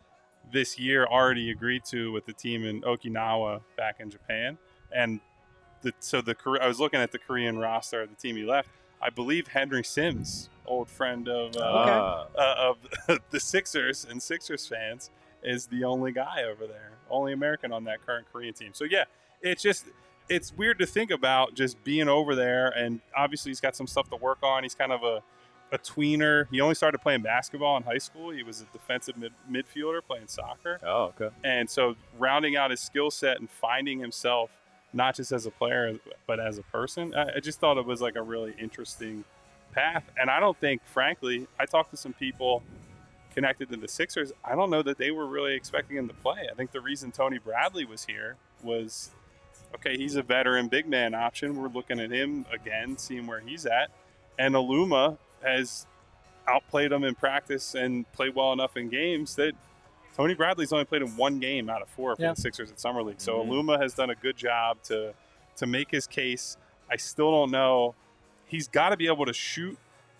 this year already agreed to with the team in Okinawa back in Japan. And the, so the I was looking at the Korean roster of the team he left. I believe Henry Sims, old friend of uh, Okay. uh, of the Sixers and Sixers fans, is the only guy over there, only American on that current Korean team. So yeah, it's just it's weird to think about just being over there, and obviously he's got some stuff to work on. He's kind of a a tweener. He only started playing basketball in high school. He was a defensive mid- midfielder playing soccer. Oh, okay. And so rounding out his skill set and finding himself not just as a player but as a person, I, I just thought it was like a really interesting path. And I don't think, frankly, I talked to some people connected to the Sixers. I don't know that they were really expecting him to play. I think the reason Tony Bradley was here was, okay, he's a veteran big man option. We're looking at him again, seeing where he's at. And Aluma has outplayed him in practice and played well enough in games that Tony Bradley's only played in one game out of four for yeah. the Sixers at Summer League. So Mm-hmm. Aluma has done a good job to to make his case. I still don't know. He's got to be able to shoot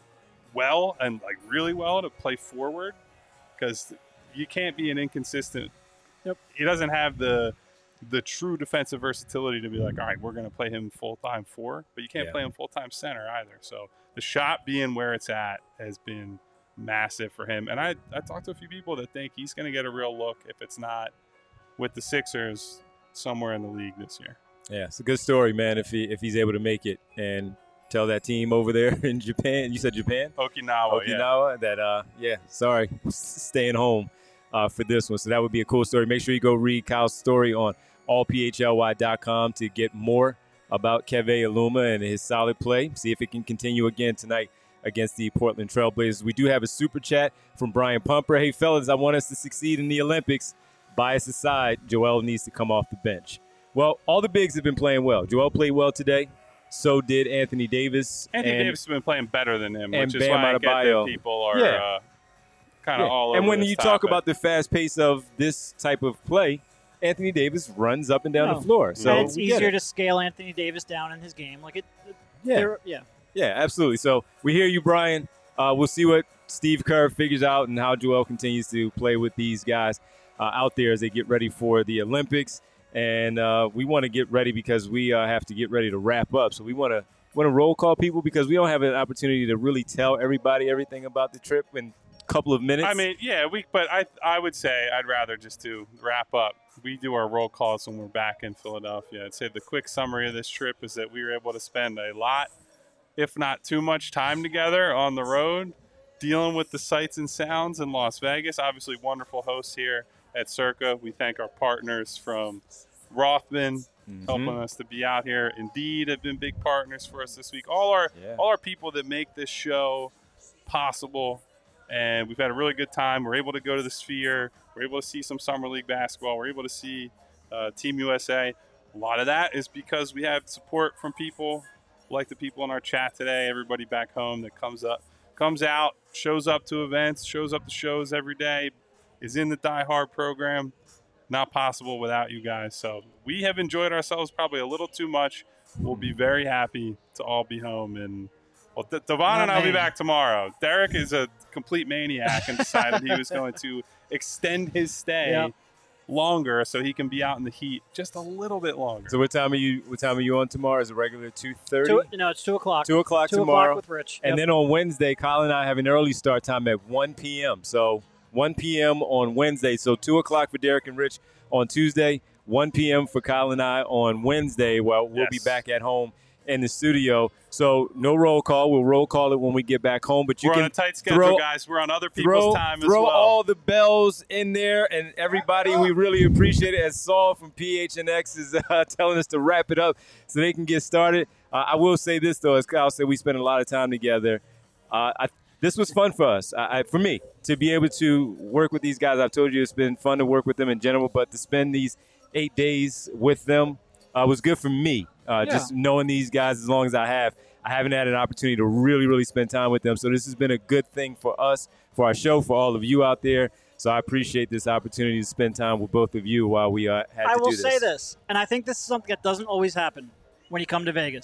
well and like really well to play forward, because you can't be an inconsistent. Yep. He doesn't have the the true defensive versatility to be like, all right, we're going to play him full time four, but you can't Yeah. play him full time center either. So the shot being where it's at has been massive for him. And I, I talked to a few people that think he's going to get a real look, if it's not with the Sixers, somewhere in the league this year. Yeah, it's a good story, man, if he if he's able to make it and tell that team over there in Japan, you said Japan? Okinawa, yeah. Okinawa, that, uh, yeah, sorry, staying home uh, for this one. So that would be a cool story. Make sure you go read Kyle's story on all p h l y dot com to get more about Keve Aluma and his solid play. See if it can continue again tonight against the Portland Trailblazers. We do have a super chat from Brian Pumper. Hey, fellas, I want us to succeed in the Olympics. Bias aside, Joel needs to come off the bench. Well, all the bigs have been playing well. Joel played well today. So did Anthony Davis. Anthony and, Davis has been playing better than him, and which is Bam why I get Adebayo. that people are Yeah. uh, kind of yeah. all over And when this you topic. talk about the fast pace of this type of play, Anthony Davis runs up and down No. the floor. So and it's we get easier it. to scale Anthony Davis down in his game. Like it, Yeah. they're- yeah. Yeah, absolutely. So we hear you, Brian. Uh, we'll see what Steve Kerr figures out and how Joel continues to play with these guys uh, out there as they get ready for the Olympics. And uh, we want to get ready because we uh, have to get ready to wrap up. So we want to want to roll call people because we don't have an opportunity to really tell everybody everything about the trip in a couple of minutes. I mean, yeah, we. But I, I would say I'd rather just to wrap up. We do our roll calls when we're back in Philadelphia. I'd say the quick summary of this trip is that we were able to spend a lot, if not too much, time together on the road, dealing with the sights and sounds in Las Vegas. Obviously, wonderful hosts here at Circa. We thank our partners from Rothman, Mhm. helping us to be out here. Indeed, have been big partners for us this week. All our Yeah. all our people that make this show possible, and we've had a really good time. We're able to go to the Sphere. We're able to see some Summer League basketball. We're able to see uh, Team U S A. A lot of that is because we have support from people like the people in our chat today. Everybody back home that comes up, comes out, shows up to events, shows up to shows every day, is in the Die Hard program. Not possible without you guys. So we have enjoyed ourselves probably a little too much. We'll be very happy to all be home. And well, D- Devon and I'll be me. back tomorrow. Derek is a complete maniac and decided he was going to extend his stay Yep. longer so he can be out in the heat just a little bit longer. So what time are you? What time are you on tomorrow? Is it regular two thirty? Two, no, it's two o'clock. Two o'clock Two tomorrow. o'clock with Rich. And Yep. then on Wednesday, Kyle and I have an early start time at one p.m. So one p.m. on Wednesday. So two o'clock for Derek and Rich on Tuesday, one p.m. for Kyle and I on Wednesday. Well, we'll be Yes. back at home in the studio. So no roll call. We'll roll call it when we get back home. But you We're can on a tight schedule, throw, guys. We're on other people's throw, time as throw well. all the bells in there, and everybody, we really appreciate it. As Saul from P H N X is uh, telling us to wrap it up so they can get started. Uh, I will say this, though, as Kyle said, we spent a lot of time together. Uh, I, this was fun for us, I, I, for me, to be able to work with these guys. I've told you it's been fun to work with them in general, but to spend these eight days with them uh, was good for me. Uh, Yeah. Just knowing these guys as long as I have. I haven't had an opportunity to really, really spend time with them. So this has been a good thing for us, for our show, for all of you out there. So I appreciate this opportunity to spend time with both of you while we uh, had I to will do this. say this, and I think this is something that doesn't always happen when you come to Vegas.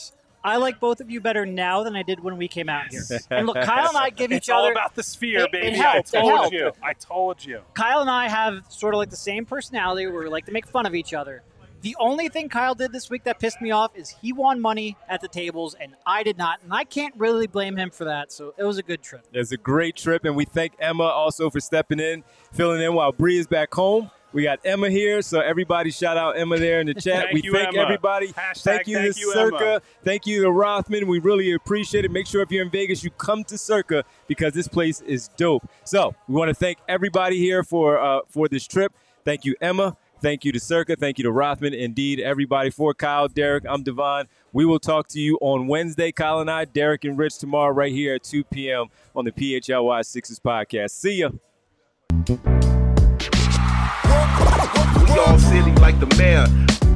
I like both of you better now than I did when we came out here. And look, Kyle and I give It's each other. all about the sphere, It- it baby. helped, it I told helped. you. I told you. Kyle and I have sort of like the same personality where we like to make fun of each other. The only thing Kyle did this week that pissed me off is he won money at the tables and I did not. And I can't really blame him for that. So it was a good trip. It was a great trip, and we thank Emma also for stepping in, filling in while Bree is back home. We got Emma here, so everybody shout out Emma there in the chat. Thank we you, thank Emma. everybody. Hashtag thank you thank to you, Circa. Emma. Thank you to Rothman. We really appreciate it. Make sure if you're in Vegas, you come to Circa because this place is dope. So we want to thank everybody here for uh, for this trip. Thank you, Emma. Thank you to Circa. Thank you to Rothman. Indeed, everybody. For Kyle, Derek, I'm Devon. We will talk to you on Wednesday, Kyle and I, Derek and Rich, tomorrow right here at two p.m. on the P H L Y Sixers podcast. See ya. We all city like the mayor.